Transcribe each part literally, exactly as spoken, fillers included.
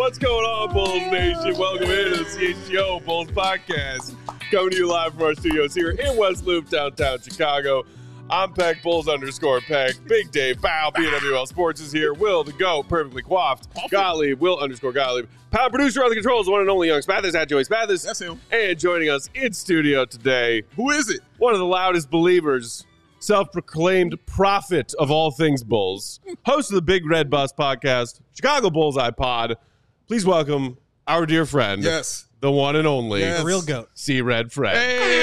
What's going on, Bulls Nation? Welcome into the C H G O Bulls Podcast. Coming to you live from our studios here in West Loop, downtown Chicago. I'm Peck, Bulls underscore Peck. Big Dave, Bow, B W L Sports is here. Will, the GOAT, perfectly coiffed. Gottlieb, Will underscore Gottlieb. Power producer on the controls, the one and only Young Spathis, at Joey Spathis. That's him. And joining us in studio today, who is it? One of the loudest believers, self-proclaimed prophet of all things Bulls, host of the Big Red Bus podcast, Chicago Bullseye Pod. Please welcome our dear friend, yes, the one and only, yes. the real GOAT, C Red Fred.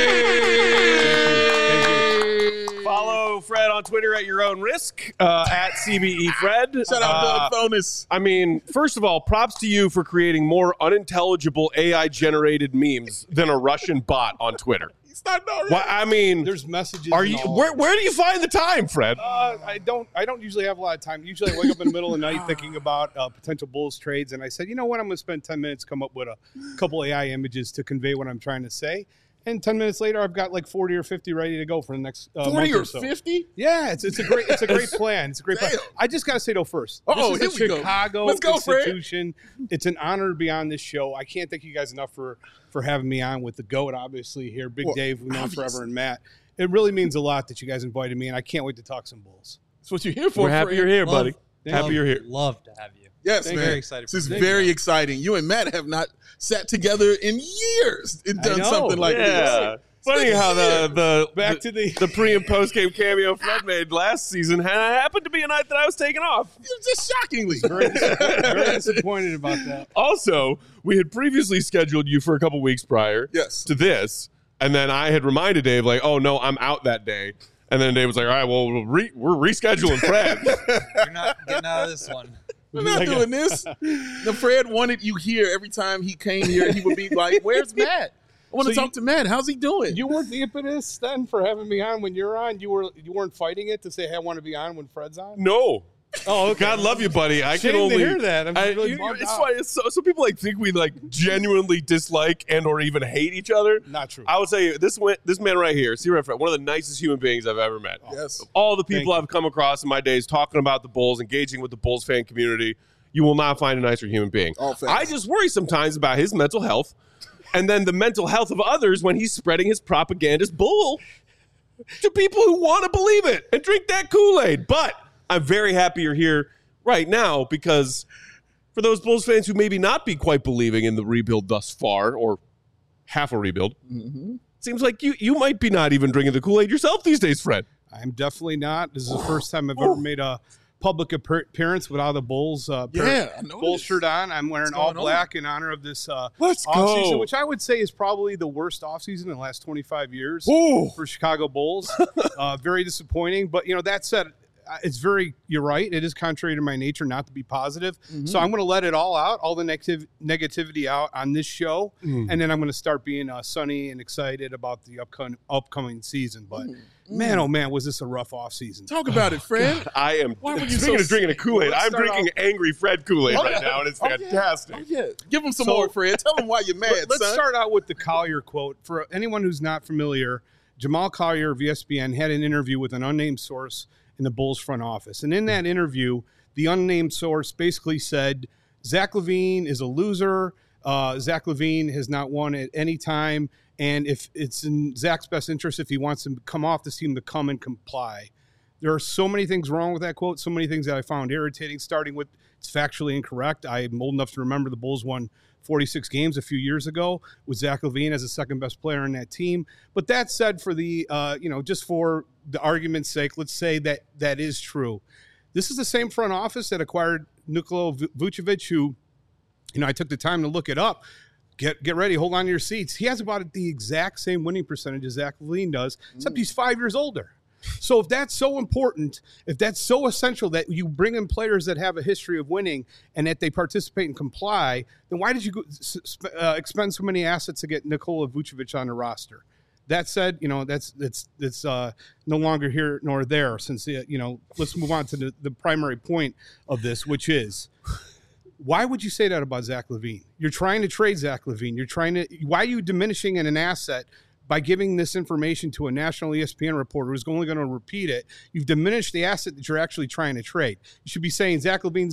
Hey! Thank you. Follow Fred on Twitter at your own risk, uh, at C B E Fred. Shout out uh, Doug Fonis. I mean, first of all, props to you for creating more unintelligible A I-generated memes than a Russian bot on Twitter. Starting already. Well, I mean, there's messages. Are you where? Where do you find the time, Fred? Uh, I don't. I don't usually have a lot of time. Usually, I wake up in the middle of the night thinking about uh, potential Bulls trades, and I said, you know what? I'm going to spend ten minutes come up with a couple A I images to convey what I'm trying to say. And ten minutes later, I've got like forty or fifty ready to go for the next uh, forty month or or so. fifty? Yeah, it's it's a great it's a great plan. It's a great Damn. plan. I just got to say though first. Oh, this here is a we Chicago go. Let's go, institution. Fred. It's an honor to be on this show. I can't thank you guys enough for for having me on with the GOAT, obviously here, Big well, Dave, we've known obviously. forever, and Matt. It really means a lot that you guys invited me, and I can't wait to talk some Bulls. That's what you're here for. We're happy Fred. you're here, love, buddy. Love, Happy you're here. Love to have you. Yes, Thank man. Very excited. This is Thank very you. exciting. You and Matt have not sat together in years and done know. something like Yeah. this. Funny how the the Back the, to the the pre and post game cameo Fred made last season ha- happened to be a night that I was taking off. Just shockingly. very, very disappointed about that. Also, we had previously scheduled you for a couple weeks prior Yes. to this, and then I had reminded Dave like, "Oh no, I'm out that day." And then Dave was like, "All right, well, we'll re- we're rescheduling Fred." You're not getting out of this one. We're not Like a- doing this. The Fred wanted you here every time he came here. He would be like, "Where's Matt? I want to So talk to Matt. How's he doing?" You weren't the impetus then for having me on when you're on. You were you weren't fighting it to say, "Hey, I want to be on when Fred's on." no. Oh, okay. God love you, buddy. I Shame can only to hear that. I'm I- really you- bummed it's out. funny. It's so, so people like think we like genuinely dislike and or even hate each other. Not true. I would say this one- this man right here, C Red Fred, one of the nicest human beings I've ever met. Yes. All the Thank people you. I've come across in my days talking about the Bulls, engaging with the Bulls fan community, you will not find a nicer human being. All facts. I just worry sometimes about his mental health and then the mental health of others when he's spreading his propagandist bull to people who want to believe it and drink that Kool-Aid. But I'm very happy you're here right now because for those Bulls fans who maybe not be quite believing in the rebuild thus far or half a rebuild, Mm-hmm. seems like you you might be not even drinking the Kool-Aid yourself these days, Fred. I'm definitely not. This is the first time I've ever made a public appear- appearance without a Bulls uh, par- Yeah, I know. Bulls shirt on. I'm wearing What's all going on? black in honor of this uh, Let's offseason, go. which I would say is probably the worst offseason in the last twenty-five years Ooh. for Chicago Bulls. uh, very disappointing. But, you know, that said, uh, it's very, you're right. It is contrary to my nature not to be positive. So I'm going to let it all out, all the negative negativity out on this show. And then I'm going to start being uh, sunny and excited about the upcoming upcoming season. But, man, oh, man, was this a rough offseason. Talk about it, Fred. I am. Why were you Speaking so of drinking a Kool-Aid, Let's I'm start drinking angry Fred Kool-Aid Oh, right yeah. now, and it's Oh, yeah. fantastic. Oh, yeah. Give him some So- more, Fred. Tell him why you're mad, Let's son. start out with the Collier quote. For anyone who's not familiar, Jamal Collier of E S P N had an interview with an unnamed source in the Bulls front office. And in that interview, the unnamed source basically said, Zach LaVine is a loser. Uh, Zach LaVine has not won at any time. And if it's in Zach's best interest, if he wants him to come off this team, to come and comply. There are so many things wrong with that quote, so many things that I found irritating, starting with it's factually incorrect. I'm old enough to remember the Bulls won forty-six games a few years ago with Zach LaVine as the second best player on that team. But that said, for the, uh, you know, just for the argument's sake, let's say that that is true. This is the same front office that acquired Nikola Vucevic, who, you know, I took the time to look it up. Get get ready, hold on to your seats. He has about the exact same winning percentage as Zach LaVine does, except he's five years older. So if that's so important, if that's so essential that you bring in players that have a history of winning and that they participate and comply, then why did you go, uh, expend so many assets to get Nikola Vucevic on the roster? That said, you know, that's that's that's uh, no longer here nor there. Since uh, you know, let's move on to the, the primary point of this, which is, why would you say that about Zach LaVine? You're trying to trade Zach LaVine. You're trying to. Why are you diminishing in an asset by giving this information to a national E S P N reporter who's only going to repeat it? You've diminished the asset that you're actually trying to trade. You should be saying Zach LaVine's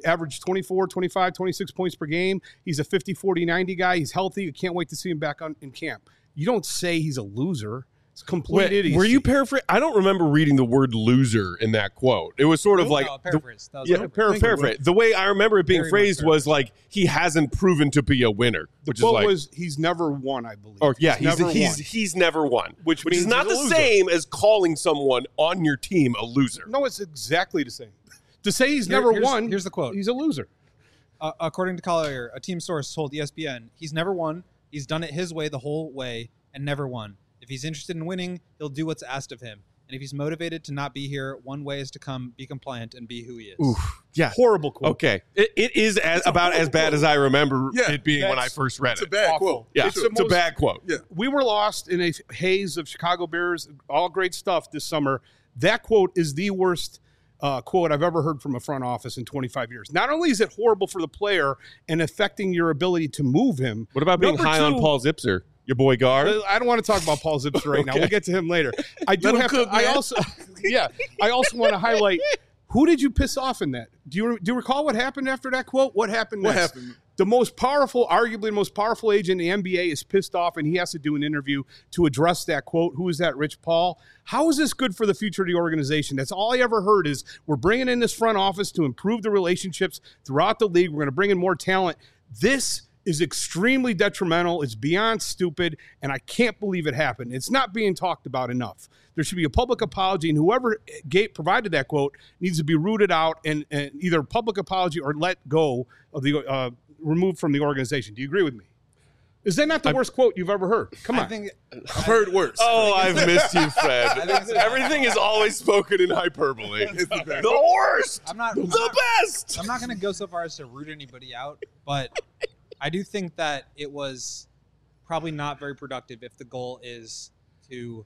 averaged twenty-four, twenty-five, twenty-six points per game. He's a fifty, forty, ninety guy. He's healthy. I can't wait to see him back on in camp. You don't say he's a loser. It's complete Wait, idiocy. were you paraphrasing? I don't remember reading the word loser in that quote. It was sort of like No, paraphrase. That was yeah, a para- paraphrase. The way I remember it being Very much phrased was like he hasn't proven to be a winner, The which is quote like, was, he's never won, I believe. or yeah, he's never he's won. he's never won, Which which is means not he's the a loser. same as calling someone on your team a loser. No, it's exactly the same. To say he's Here- never here's- won, here's the quote. he's a loser. Uh, according to Collier, a team source told E S P N, he's never won. He's done it his way the whole way and never won. If he's interested in winning, he'll do what's asked of him. And if he's motivated to not be here, one way is to come, be compliant, and be who he is. Oof. Yeah. Horrible quote. Okay. It, it is as, about as bad as I remember Yeah, it being when I that's- first read It's a it. bad Awful. quote. Yeah, It's it's, the a most- bad quote. Yeah. We were lost in a haze of Chicago Bears, all great stuff this summer. That quote is the worst uh, quote I've ever heard from a front office in twenty-five years. Not only is it horrible for the player and affecting your ability to move him. What about being number high on two- Paul Zipser, your boy Gar? Uh, I don't want to talk about Paul Zipser right now. Okay. We'll get to him later. I do Let him have cook, to. I man. also, yeah, I also want to highlight who did you piss off in that? Do you do you recall what happened after that quote? What happened? What next? happened? The most powerful, arguably the most powerful agent in the N B A is pissed off, and he has to do an interview to address that quote. Who is that? Rich Paul. How is this good for the future of the organization? That's all I ever heard is we're bringing in this front office to improve the relationships throughout the league. We're going to bring in more talent. This is extremely detrimental. It's beyond stupid, and I can't believe it happened. It's not being talked about enough. There should be a public apology, and whoever gave, provided that quote needs to be rooted out and, and either a public apology or let go of the uh, removed from the organization. Do you agree with me? Is that not the worst quote you've ever heard? Come on. I think I've heard worse. Oh, I've missed you, Fred. I think so. Everything is always spoken in hyperbole. It's the best. The worst. I'm not I'm The not- best. I'm not going to go so far as to root anybody out, but I do think that it was probably not very productive if the goal is to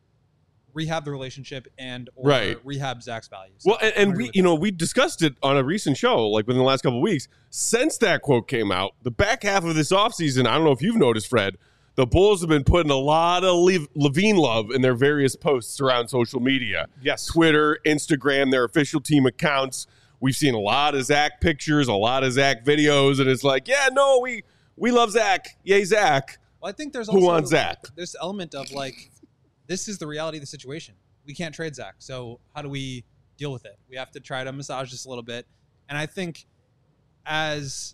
rehab the relationship and or Right. rehab Zach's values. Well, and, I'm and agree we, with you that. know, we discussed it on a recent show, like within the last couple of weeks. Since that quote came out, the back half of this offseason, I don't know if you've noticed, Fred, the Bulls have been putting a lot of Lev- Levine love in their various posts around social media. Yes. Twitter, Instagram, their official team accounts. We've seen a lot of Zach pictures, a lot of Zach videos, and it's like, yeah, no, we we love Zach. Yay, Zach. Well, I think there's Who also wants Zach? this element of like, this is the reality of the situation. We can't trade Zach, so how do we deal with it? We have to try to massage this a little bit, and I think as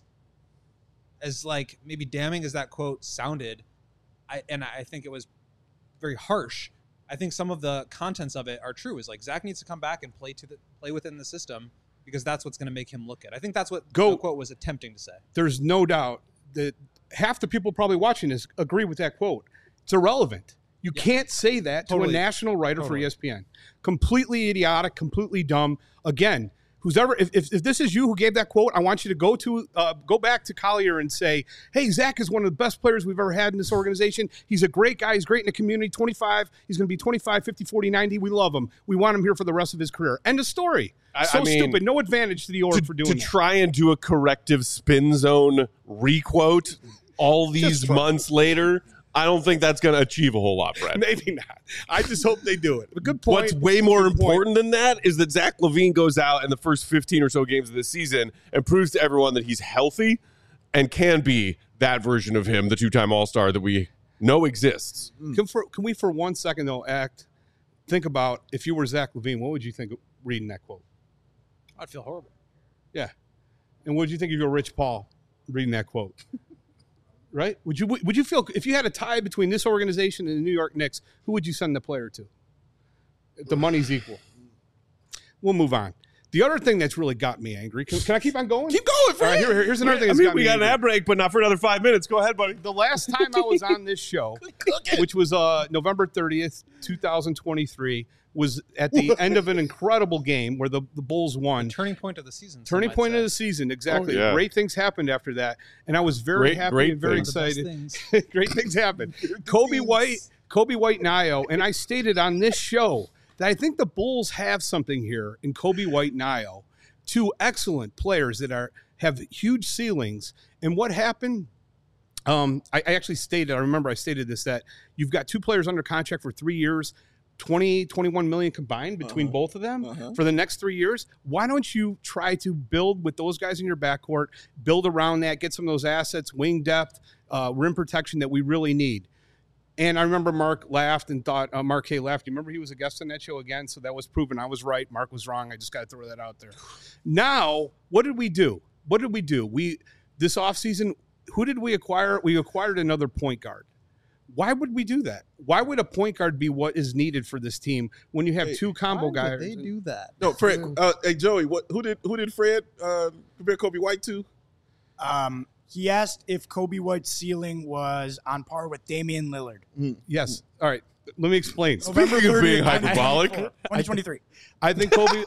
as like maybe damning as that quote sounded, I and I think it was very harsh. I think some of the contents of it are true. Is like Zach needs to come back and play to the play within the system because that's what's going to make him look good. I think that's what Go- the quote was attempting to say. There's no doubt that half the people probably watching this agree with that quote. It's irrelevant. You Yeah. can't say that to Totally. a national writer Totally. for E S P N. Completely idiotic, completely dumb. Again, who's ever if, if, if this is you who gave that quote, I want you to go to uh, go back to Collier and say, hey, Zach is one of the best players we've ever had in this organization. He's a great guy. He's great in the community. twenty-five. He's going to be twenty-five, fifty, forty, ninety. We love him. We want him here for the rest of his career. End of story. I- so I mean, stupid. No advantage to the org to, for doing to that. try and do a corrective spin zone requote all these try. months later, I don't think that's going to achieve a whole lot, Fred. Maybe not. I just hope they do it. But good point. What's way more Good point. important than that is that Zach LaVine goes out in the first fifteen or so games of this season and proves to everyone that he's healthy and can be that version of him, the two-time All-Star that we know exists. Can, for, can we, for one second, though, act, think about if you were Zach LaVine, what would you think of reading that quote? I'd feel horrible. Yeah. And what would you think of your Rich Paul reading that quote? Right? Would you would you feel if you had a tie between this organization and the New York Knicks, who would you send the player to? If the money's equal. We'll move on. The other thing that's really got me angry. Can, can I keep on going? Keep going, All right, Fred. here, here's another thing I that's mean, got we me got an angry. ad break, but not for another five minutes. Go ahead, buddy. The last time I was on this show, which was uh, November thirtieth, twenty twenty-three, was at the end of an incredible game where the, the Bulls won. Turning point of the season. some Turning might point say. of the season, exactly. Oh, yeah. Great things happened after that, and I was very Great- happy great and very things. One of the excited. best things. Great things happened. Kobe White, Kobe White, Nio, and I stated on this show that I think the Bulls have something here in Kobe White, Nio, two excellent players that are have huge ceilings. And what happened? Um, I, I actually stated. I remember I stated this that you've got two players under contract for three years. twenty, twenty-one million combined between Uh-huh. both of them Uh-huh. for the next three years. Why don't you try to build with those guys in your backcourt, build around that, get some of those assets, wing depth, uh, rim protection that we really need. And I remember Mark laughed and thought, uh, Mark K laughed. You remember he was a guest on that show again? So that was proven. I was right. Mark was wrong. I just got to throw that out there. Now, what did we do? What did we do? We, this offseason, who did we acquire? We acquired another point guard. Why would we do that? Why would a point guard be what is needed for this team when you have Hey, two combo Why guys? would they do that? No, Fred. Uh, hey, Joey. What? Who did? Who did Fred uh, compare Kobe White to? Um, he asked if Kobe White's ceiling was on par with Damian Lillard. Yes. All right. Let me explain. November Speaking of being thirtieth, hyperbolic. twenty twenty-three. I think Kobe.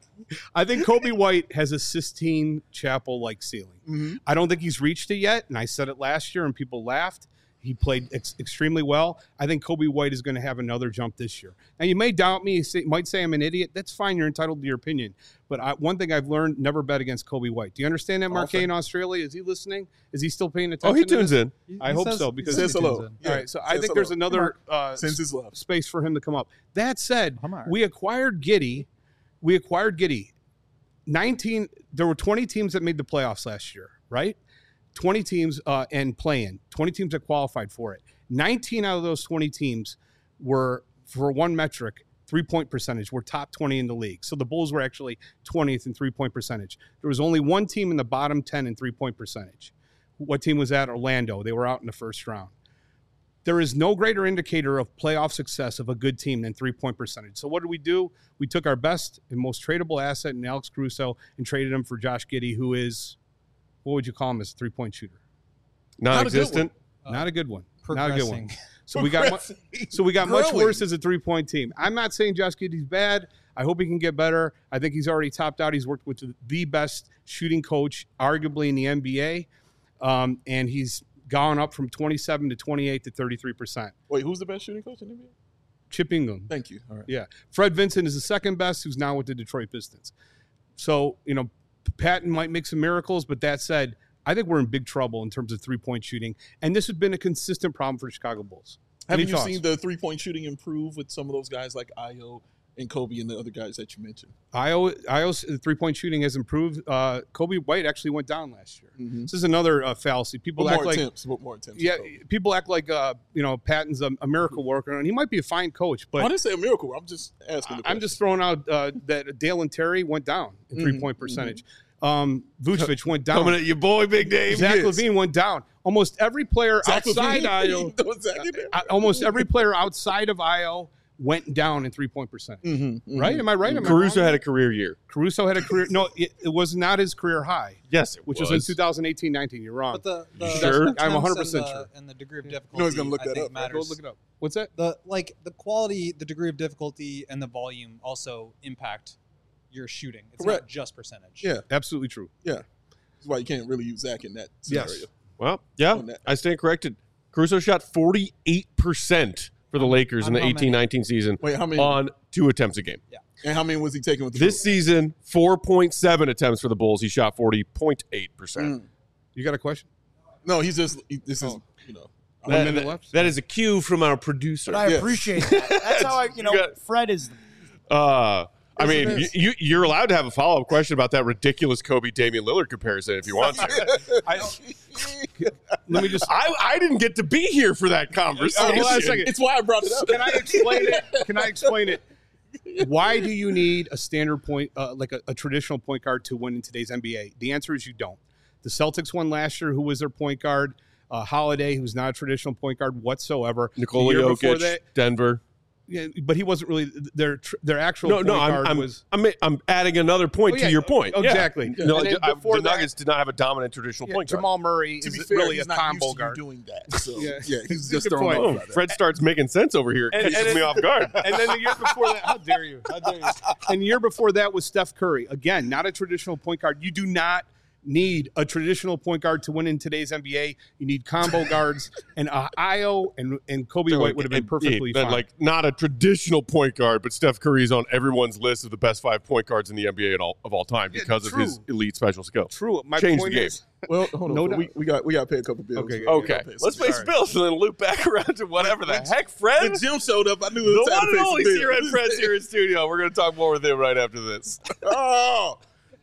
I think Kobe White has a Sistine Chapel like ceiling. Mm-hmm. I don't think he's reached it yet, and I said it last year, and people laughed. He played ex- extremely well. I think Kobe White is going to have another jump this year. Now, you may doubt me, say, might say I'm an idiot. That's fine. You're entitled to your opinion. But I, one thing I've learned: never bet against Kobe White. Do you understand that, Mark K in Australia? Is he listening? Is he still paying attention? Oh, he to tunes this? in. He- I he hope says- so, because he Says says he hello. tunes in. Yeah. All right, so I Says think there's hello. another uh, Sends his love. space for him to come up. That said, I'm all right. we acquired Giddey. We acquired Giddey. nineteen. There were twenty teams that made the playoffs last year, right? twenty teams uh, and play-in. twenty teams that qualified for it. nineteen out of those twenty teams were, for one metric, three-point percentage. Were top twenty in the league. So the Bulls were actually twentieth in three-point percentage. There was only one team in the bottom ten in three-point percentage. What team was that? Orlando. They were out in the first round. There is no greater indicator of playoff success of a good team than three-point percentage. So what did we do? We took our best and most tradable asset in Alex Caruso and traded him for Josh Giddey, who is, what would you call him as a three-point shooter? Non-existent. Uh, Not a good one. Not a good one. Progressing. So we got mu- so we got much Growing. worse as a three-point team. I'm not saying Josh Giddey's bad. I hope he can get better. I think he's already topped out. He's worked with the best shooting coach, arguably in the N B A, um, and he's gone up from twenty-seven to twenty-eight to thirty-three percent. Wait, who's the best shooting coach in the N B A? Chip Ingram. Thank you. All right. Yeah. Fred Vincent is the second best, who's now with the Detroit Pistons. So, you know, Patton might make some miracles, but that said, I think we're in big trouble in terms of three-point shooting, and this has been a consistent problem for the Chicago Bulls. Haven't Any you thoughts? seen the three point shooting improve with some of those guys like Io and Kobe and the other guys that you mentioned? Io, Io's three-point shooting has improved. Uh, Kobe White actually went down last year. Mm-hmm. This is another uh, fallacy. People But act more like attempts. But more attempts. yeah, with Kobe. people act like uh, you know Patton's a, a miracle worker, and he might be a fine coach, I but didn't say a miracle. I'm just asking. The I'm just throwing out uh, that Dale and Terry went down in Mhm, three-point percentage. Um, Vucevic went down. Coming at your boy, Big Dave. Zach Yes. Levine went down. Almost every player Zach outside Levine? Io, You know Zach in there? uh, almost every player outside of Io went down in three-point percentage. Mhm, Right? mhm. Am I right? Am I Caruso wrong? had a career year. Caruso had a career. No, it, it was not his career high, Yes, it which was. was, in two thousand eighteen nineteen. You're wrong. But the, the Sure? the I'm one hundred attempts percent and the, sure. And the degree of difficulty. You know he's gonna look I that think up, right? matters. Go look it up. What's that? The like the quality, the degree of difficulty, and the volume also impact your shooting. It's Correct. not just percentage. Yeah. Absolutely true. That's why you can't really use Zach in that scenario. Yes. Well, yeah, On that. I stand corrected. Caruso shot forty-eight percent for the Lakers in the on how many? eighteen nineteen season Wait, how many? on two attempts a game. and how many was he taking with the This season, four point seven attempts for the Bulls. He shot forty point eight percent. Mm. You got a question? No, he's just. He, this is. Oh. You know. One That- minute that- left? that is a cue from our producer. But I Yes. appreciate that. That's how I, you know, You got- Fred is. Uh, I Yes, mean, it you, is. you, you're allowed to have a follow up question about that ridiculous Kobe Damian Lillard comparison if you want to. I, let me just. I, I didn't get to be here for that conversation. Oh, hold on a second. It's why I brought it up. Can I explain it? Can I explain it? Why do you need a standard point, uh, like a, a traditional point guard, to win in today's N B A? The answer is you don't. The Celtics won last year. Who was their point guard? Uh, Holiday, who's not a traditional point guard whatsoever. Nikola The year before Jokic, that- Denver. Yeah, but he wasn't really their tr- their actual No, point no, I'm, guard I'm, was. I'm, I'm adding another point Oh, to yeah, your point. oh, Yeah. exactly. No, And then I- before the that- Nuggets did not have a dominant traditional Yeah, point guard. Jamal Murray To is be fair, really he's a not combo used to guard. you doing that. So Yeah. yeah, he's just Good throwing point. off Oh, by that. Fred starts making sense over here. And- Catches and me it- off guard. And then the year before that, how dare you? How dare you? And the year before that was Steph Curry. Again, not a traditional point guard. You do not need a traditional point guard to win in today's N B A. You need combo guards, and uh, Io and and Kobe White would have been perfectly yeah, fine. Like not a traditional point guard, but Steph Curry is on everyone's list of the best five point guards in the N B A at all, of all time because Yeah, of his elite special skill. True. My Changed point the game. is, Well, hold on. No No doubt. we, we got we got to pay a couple bills. Okay, We gotta Okay, pay let's some play bills. Spills and then loop back around to whatever the heck, Fred. When Jim showed up, I knew it The was time one to and pay only some C Red bills. Fred's here in studio. We're going to talk more with him right after this. Oh,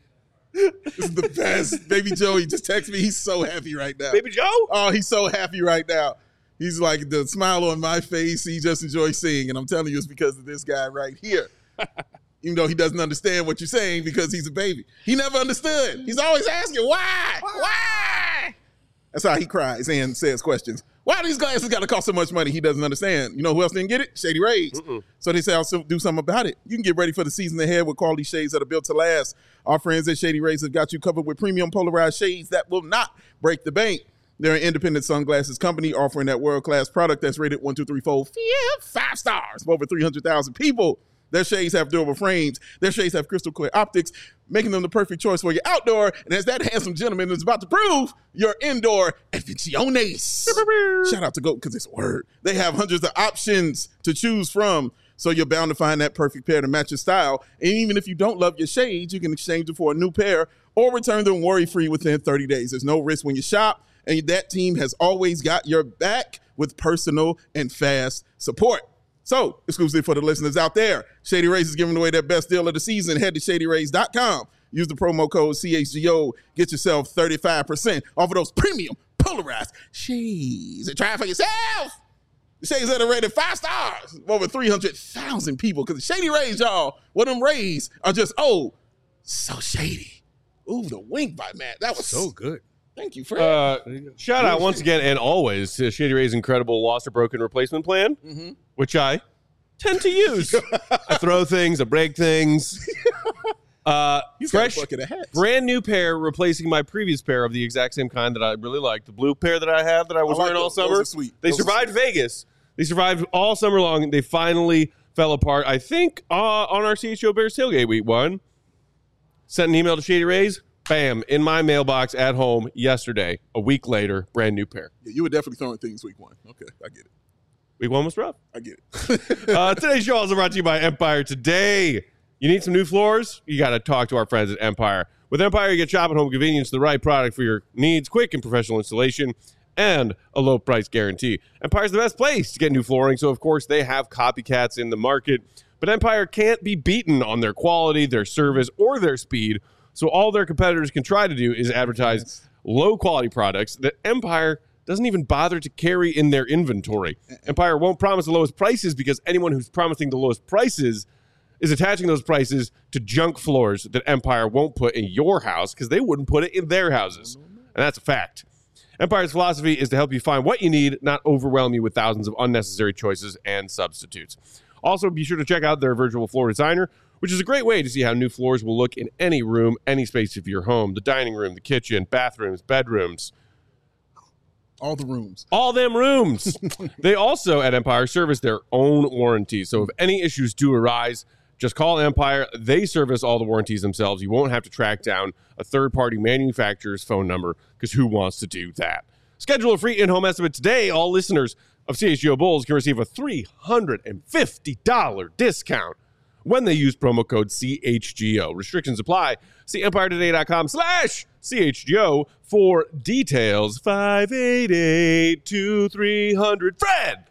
this is the best. Baby Joey just texted me. He's so happy right now. Baby Joe? Oh, he's so happy right now. He's like, the smile on my face, he just enjoys seeing. And I'm telling you, it's because of this guy right here. Even though he doesn't understand what you're saying because he's a baby. He never understood. He's always asking, why? Why? That's how he cries and says questions. Why these glasses got to cost so much money? He doesn't understand. You know who else didn't get it? Shady Rays. Mm-mm. So they say, I'll still do something about it. You can get ready for the season ahead with quality shades that are built to last. Our friends at Shady Rays have got you covered with premium polarized shades that will not break the bank. They're an independent sunglasses company offering that world-class product that's rated one, two, three, four, five stars for over three hundred thousand people. Their shades have durable frames. Their shades have crystal clear optics, making them the perfect choice for your outdoor. And as that handsome gentleman is about to prove, your indoor aficiones. Shout out to Goat because it's a word. They have hundreds of options to choose from, so you're bound to find that perfect pair to match your style. And even if you don't love your shades, you can exchange them for a new pair or return them worry-free within thirty days. There's no risk when you shop, and that team has always got your back with personal and fast support. So, exclusive for the listeners out there, Shady Rays is giving away their best deal of the season. Head to shady rays dot com. Use the promo code C H G O. Get yourself thirty-five percent off of those premium polarized shades. And try it for yourself. The shades that are rated five stars. Over three hundred thousand people. Because the Shady Rays, y'all, well, them rays are just, oh, so shady. Ooh, the wink by Matt. That was so good. Thank you, Fred. Uh, shout out once again and always to Shady Ray's incredible lost or broken replacement plan, mm-hmm. which I tend to use. I throw things, I break things. Uh, He's got a fresh, bucket of hats. brand new pair replacing my previous pair of the exact same kind that I really liked. The blue pair that I had that I was I like wearing all those. Those summer. are sweet. They Those are survived Vegas. They survived all summer long. They finally fell apart. I think uh, on our C H O Bears tailgate week one. Sent an email to Shady Rays. Bam, in my mailbox at home yesterday. A week later, brand new pair. Yeah, you were definitely throwing things week one. Okay, I get it. Week one was rough. I get it. uh, today's show is brought to you by Empire. Today, you need some new floors? You got to talk to our friends at Empire. With Empire, you get shop at home convenience, the right product for your needs, quick and professional installation, and a low price guarantee. Empire's the best place to get new flooring, so of course they have copycats in the market. But Empire can't be beaten on their quality, their service, or their speed. So all their competitors can try to do is advertise yes. low-quality products that Empire doesn't even bother to carry in their inventory. Empire won't promise the lowest prices because anyone who's promising the lowest prices is attaching those prices to junk floors that Empire won't put in your house because they wouldn't put it in their houses. And that's a fact. Empire's philosophy is to help you find what you need, not overwhelm you with thousands of unnecessary choices and substitutes. Also, be sure to check out their virtual floor designer, which is a great way to see how new floors will look in any room, any space of your home. The dining room, the kitchen, bathrooms, bedrooms. All the rooms. All them rooms. They also, at Empire, service their own warranty. So if any issues do arise, just call Empire. They service all the warranties themselves. You won't have to track down a third-party manufacturer's phone number because who wants to do that? Schedule a free in-home estimate today. All listeners of C H G O Bulls can receive a three hundred fifty dollars discount when they use promo code C H G O. Restrictions apply. See empire today dot com slash C H G O for details. five eight eight, two three hundred. Fred!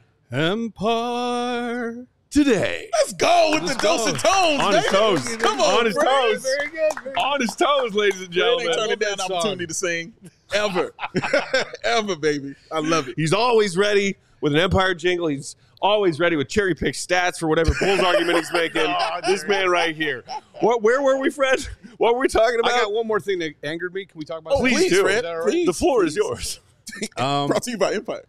Empire today. Let's go with Let's the go. dose of tones, On baby. his toes. Come on, On his Fred. toes. Very good. Very On his toes, ladies and Fred gentlemen. ain't turning down that the opportunity to sing. Ever. Ever, baby. I love it. He's always ready with an Empire jingle. He's always ready with cherry pick stats for whatever Bulls argument he's making. Oh, this man right here. What? Where were we, Fred? What were we talking about? I got one more thing that angered me. Can we talk about Oh, that? Please please, do. Fred. Is that all right? Please. The floor please. is yours. Um, Brought to you by Empire.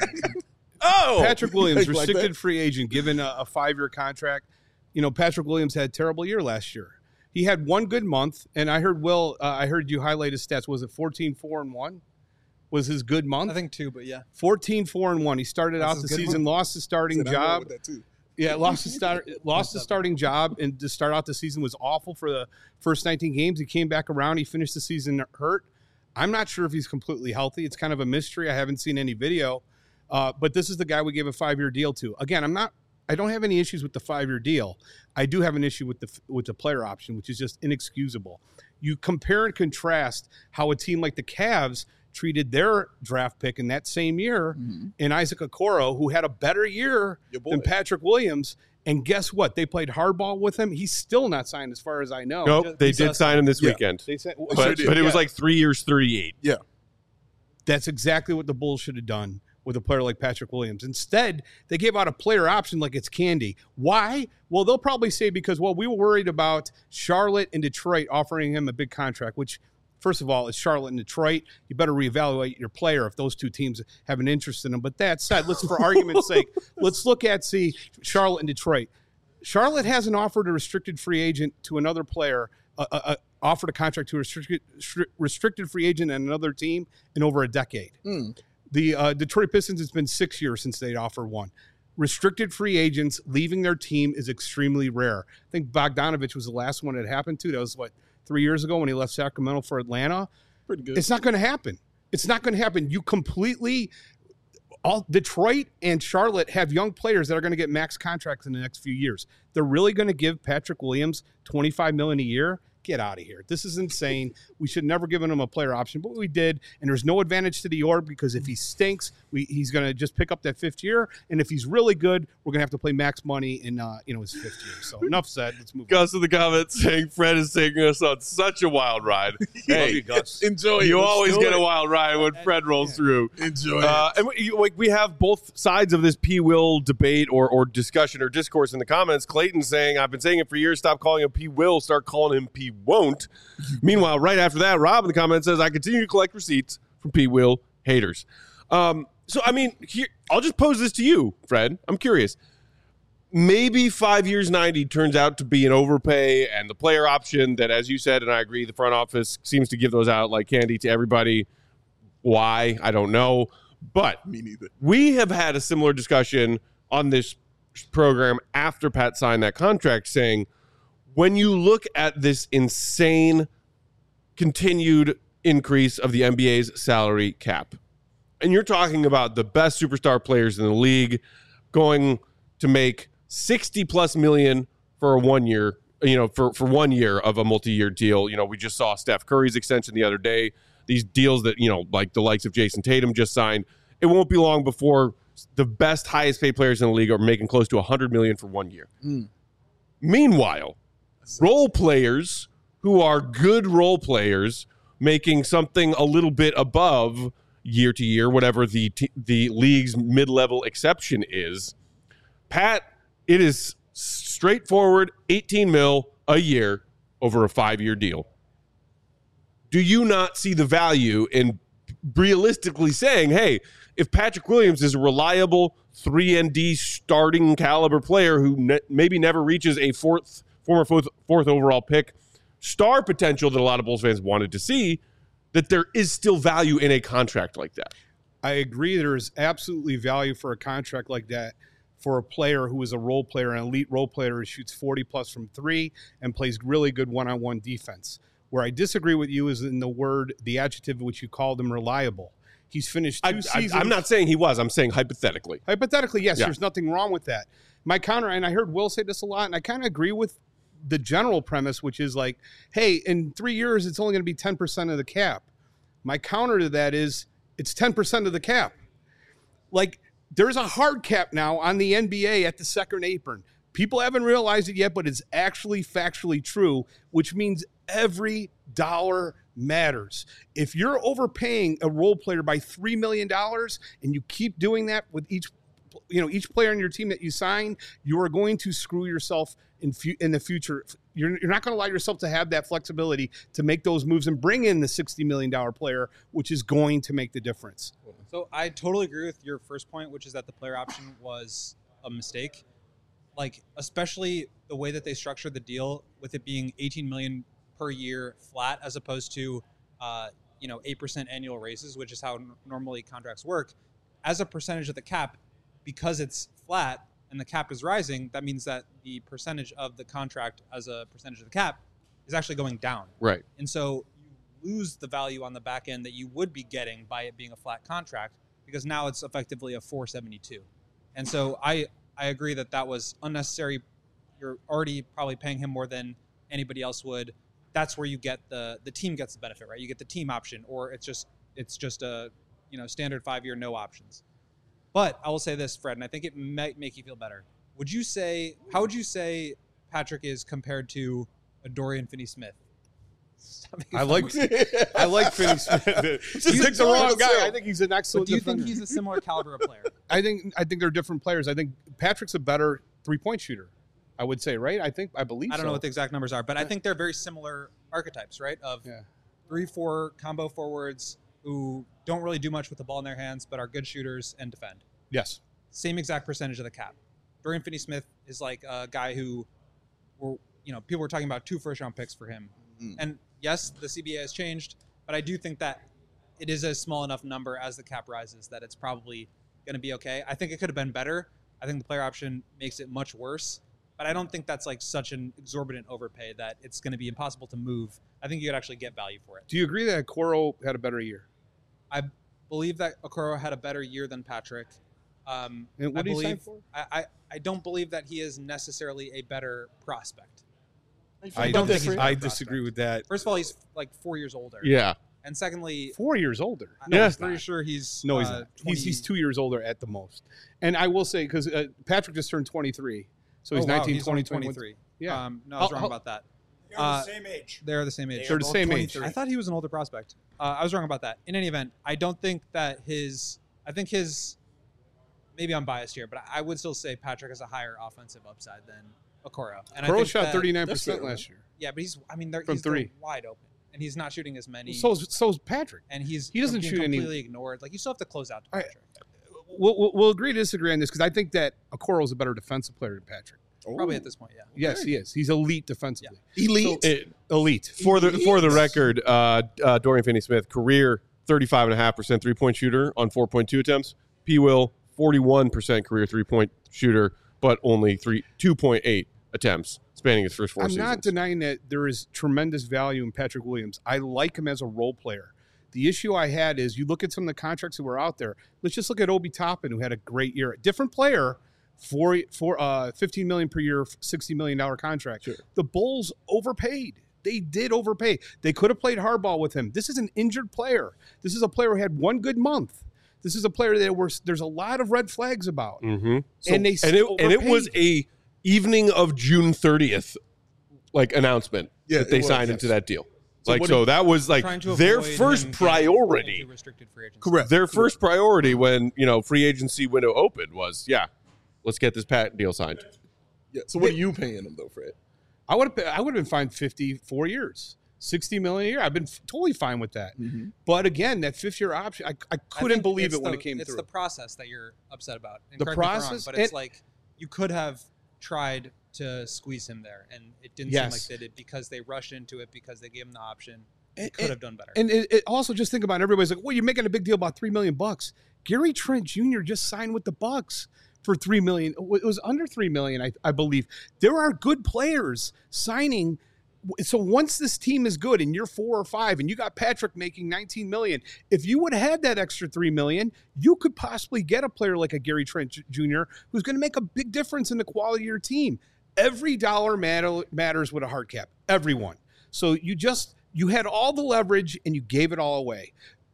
Oh, Patrick Williams, Like restricted that. free agent, given a, a five-year contract. You know, Patrick Williams had a terrible year last year. He had one good month, and I heard Will. Uh, I heard you highlight his stats. Was it fourteen, four, and one? Was his good month? I think two, but yeah. fourteen, four, and one. He started That's out his the good season, month. lost his starting Said I'm going job. with that too. Yeah, lost his start, lost his starting job, and to start out the season was awful for the first nineteen games. He came back around. He finished the season hurt. I'm not sure if he's completely healthy. It's kind of a mystery. I haven't seen any video. Uh, but this is the guy we gave a five-year deal to. Again, I'm not I don't have any issues with the five-year deal. I do have an issue with the with the player option, which is just inexcusable. You compare and contrast how a team like the Cavs treated their draft pick in that same year mm-hmm. in Isaac Okoro, who had a better year than Patrick Williams. And guess what? They played hardball with him. He's still not signed as far as I know. Nope, Just, they did sign him this yeah. weekend. They said, well, but, sure but it yeah. was like three years, thirty-eight. Yeah. That's exactly what the Bulls should have done with a player like Patrick Williams. Instead, they gave out a player option like it's candy. Why? Well, they'll probably say because, well, we were worried about Charlotte and Detroit offering him a big contract, which, first of all, it's Charlotte and Detroit. You better reevaluate your player if those two teams have an interest in him. But that said, let's, for argument's sake, let's look at, see, Charlotte and Detroit. Charlotte hasn't offered a restricted free agent to another player, uh, uh, offered a contract to a restricted, restricted free agent and another team in over a decade. Mm. The uh, Detroit Pistons, it's been six years since they'd offered one. Restricted free agents leaving their team is extremely rare. I think Bogdanovich was the last one it happened to. That was, what, three years ago when he left Sacramento for Atlanta? Pretty good. It's not going to happen. It's not going to happen. You completely – all Detroit and Charlotte have young players that are going to get max contracts in the next few years. They're really going to give Patrick Williams twenty-five million dollars a year? Get out of here. This is insane. We should never given him a player option, but we did. And there's no advantage to the org because if he stinks, we, he's going to just pick up that fifth year. And if he's really good, we're going to have to play max money in uh, you know his fifth year. So enough said. Let's move Gus on. in the comments saying Fred is taking us on such a wild ride. Hey, you, Gus. Enjoy it. You Let's always do get it. a wild ride when Fred rolls Yeah. through. Enjoy Uh, it. and we, you- like we have both sides of this P. Will debate or or discussion or discourse in the comments. Clayton saying, "I've been saying it for years. Stop calling him P. Will. Start calling him P. Won't." Meanwhile, right after that, Rob in the comments says, "I continue to collect receipts from P. Will haters." Um, so I mean, here I'll just pose this to you, Fred. I'm curious. Maybe five years ninety turns out to be an overpay, and the player option that, as you said, and I agree, the front office seems to give those out like candy to everybody. Why? I don't know. But Me neither. we have had a similar discussion on this program after Pat signed that contract, saying when you look at this insane continued increase of the N B A's salary cap, and you're talking about the best superstar players in the league going to make sixty plus million for a one year, you know, for, for one year of a multi-year deal. You know, we just saw Steph Curry's extension the other day. These deals that, you know, like the likes of Jason Tatum just signed. It won't be long before the best, highest paid players in the league are making close to one hundred million for one year. Mm. Meanwhile, role players who are good role players making something a little bit above year to year, whatever the t- the league's mid-level exception is. Pat, it is straightforward eighteen mil a year over a five-year deal. Do you not see the value in realistically saying, hey, if Patrick Williams is a reliable three and D starting caliber player who ne- maybe never reaches a fourth former fourth, fourth overall pick star potential that a lot of Bulls fans wanted to see, that there is still value in a contract like that? I agree. There is absolutely value for a contract like that for a player who is a role player, an elite role player who shoots forty plus from three and plays really good one-on-one defense. Where I disagree with you is in the word, the adjective which you called him, reliable. He's finished two I, seasons. I, I'm not saying he was. I'm saying hypothetically. Hypothetically, yes, Yeah. there's nothing wrong with that. My counter, and I heard Will say this a lot, and I kind of agree with the general premise, which is like, hey, in three years, it's only going to be ten percent of the cap. My counter to that is it's ten percent of the cap. Like, there's a hard cap now on the N B A at the second apron. People haven't realized it yet, but it's actually factually true, which means every dollar matters. If you're overpaying a role player by three million dollars and you keep doing that with each, you know, each player on your team that you sign, you are going to screw yourself in fu- in the future. You're, you're not going to allow yourself to have that flexibility to make those moves and bring in the sixty million dollars player, which is going to make the difference. So I totally agree with your first point, which is that the player option was a mistake. Like, especially the way that they structured the deal with it being eighteen million dollars per year flat, as opposed to, uh, you know, eight percent annual raises, which is how n- normally contracts work. As a percentage of the cap, because it's flat and the cap is rising, that means that the percentage of the contract as a percentage of the cap is actually going down. Right. And so you lose the value on the back end that you would be getting by it being a flat contract, because now it's effectively a four seventy-two. And so I, I agree that that was unnecessary. You're already probably paying him more than anybody else would. That's where you get the the team gets the benefit, right? You get the team option, or it's just it's just a you know standard five year no options. But I will say this, Fred, and I think it might make you feel better. Would you say how would you say Patrick is compared to a Dorian Finney-Smith? I like I like Finney-Smith. Just He's picked the the wrong wrong guy. self. I think he's an But excellent do you defender. think he's a similar caliber of player? I think I think they're different players. I think Patrick's a better three-point shooter. I would say, right? I think I believe. I don't so. know what the exact numbers are, but I think they're very similar archetypes, right? Of Yeah. three, four combo forwards who don't really do much with the ball in their hands, but are good shooters and defend. Yes. Same exact percentage of the cap. Dorian Finney-Smith is like a guy who, were, you know, people were talking about two first-round picks for him. Mm. And yes, the C B A has changed, but I do think that it is a small enough number as the cap rises that it's probably going to be okay. I think it could have been better. I think the player option makes it much worse. But I don't think that's like such an exorbitant overpay that it's going to be impossible to move. I think you could actually get value for it. Do you agree that Okoro had a better year? I believe that Okoro had a better year than Patrick. Um, And what I did he sign believe for? I, I, I don't believe that he is necessarily a better prospect. I don't think he's a better I prospect. disagree with that. First of all, he's like four years older. Yeah. And secondly, Four years older. no, Yeah. I'm pretty sure he's No, he's uh, not. He's, he's twenty two years older at the most. And I will say, because uh, Patrick just turned twenty-three. So he's oh, wow, nineteen, he's twenty, only twenty-one. twenty-three. Yeah. Um, no, I was How- wrong how- about that. They're Uh, the same age. They're the same age. They're the both same age. twenty-three. I thought he was an older prospect. Uh, I was wrong about that. In any event, I don't think that his. I think his. Maybe I'm biased here, but I would still say Patrick has a higher offensive upside than Okoro. And I Okoro think shot that- thirty-nine That's percent fair, last year. Yeah, but he's. I mean, they're, From he's they're three. wide open, and he's not shooting as many. So's, so's Patrick. and he's he doesn't being shoot any- completely ignored. Like you still have to close out to I- Patrick. We'll, we'll, we'll agree to disagree on this because I think that Okoro is a better defensive player than Patrick. Probably at this point, yeah. Yes, he is. He's elite defensively. Elite. It, Elite. for the for the Yes. record, uh, uh, Dorian Finney-Smith, career thirty-five point five percent three-point shooter on four point two attempts. P. Will, forty-one percent career three-point shooter, but only three two point eight attempts spanning his first four I'm seasons. not denying that there is tremendous value in Patrick Williams. I like him as a role player. The issue I had is you look at some of the contracts that were out there. Let's just look at Obi Toppin, who had a great year. Different player, for for uh, fifteen million dollars per year, sixty million dollars contract. Sure. The Bulls overpaid. They did overpay. They could have played hardball with him. This is an injured player. This is a player who had one good month. This is a player that were, there's a lot of red flags about. Mm-hmm. and they and it, still and it was overpaid. a evening of June thirtieth like announcement Yeah, that they it was, signed yes. into that deal. So like what so do that was like Trying to their avoid first him getting priority. into restricted free agency. Correct. Their first priority when, you know, free agency window opened was, yeah, let's get this patent deal signed. Yeah. So what are you paying him though, Fred? I would have I would have been fine fifty-four years. sixty million a year. I've been f- totally fine with that. Mm-hmm. But again, that fifth year option, I, I I couldn't think believe it's it when the- it came it's through. the process that you're upset about. And The correct me if I'm wrong, process- but it's and- like you could have tried to squeeze him there, and it didn't Yes. seem like they did because they rushed into it because they gave him the option. They And- could have done better. And it, it also just think about it, everybody's like, well, you're making a big deal about three million bucks. Gary Trent Junior just signed with the Bucks for three million. It was under three million, I, I believe. There are good players signing. So once this team is good and you're four or five and you got Patrick making nineteen million, if you would have had that extra three million, you could possibly get a player like a Gary Trent J- Junior who's going to make a big difference in the quality of your team. Every dollar matter, matters with a hard cap. Everyone. So you just you had all the leverage and you gave it all away.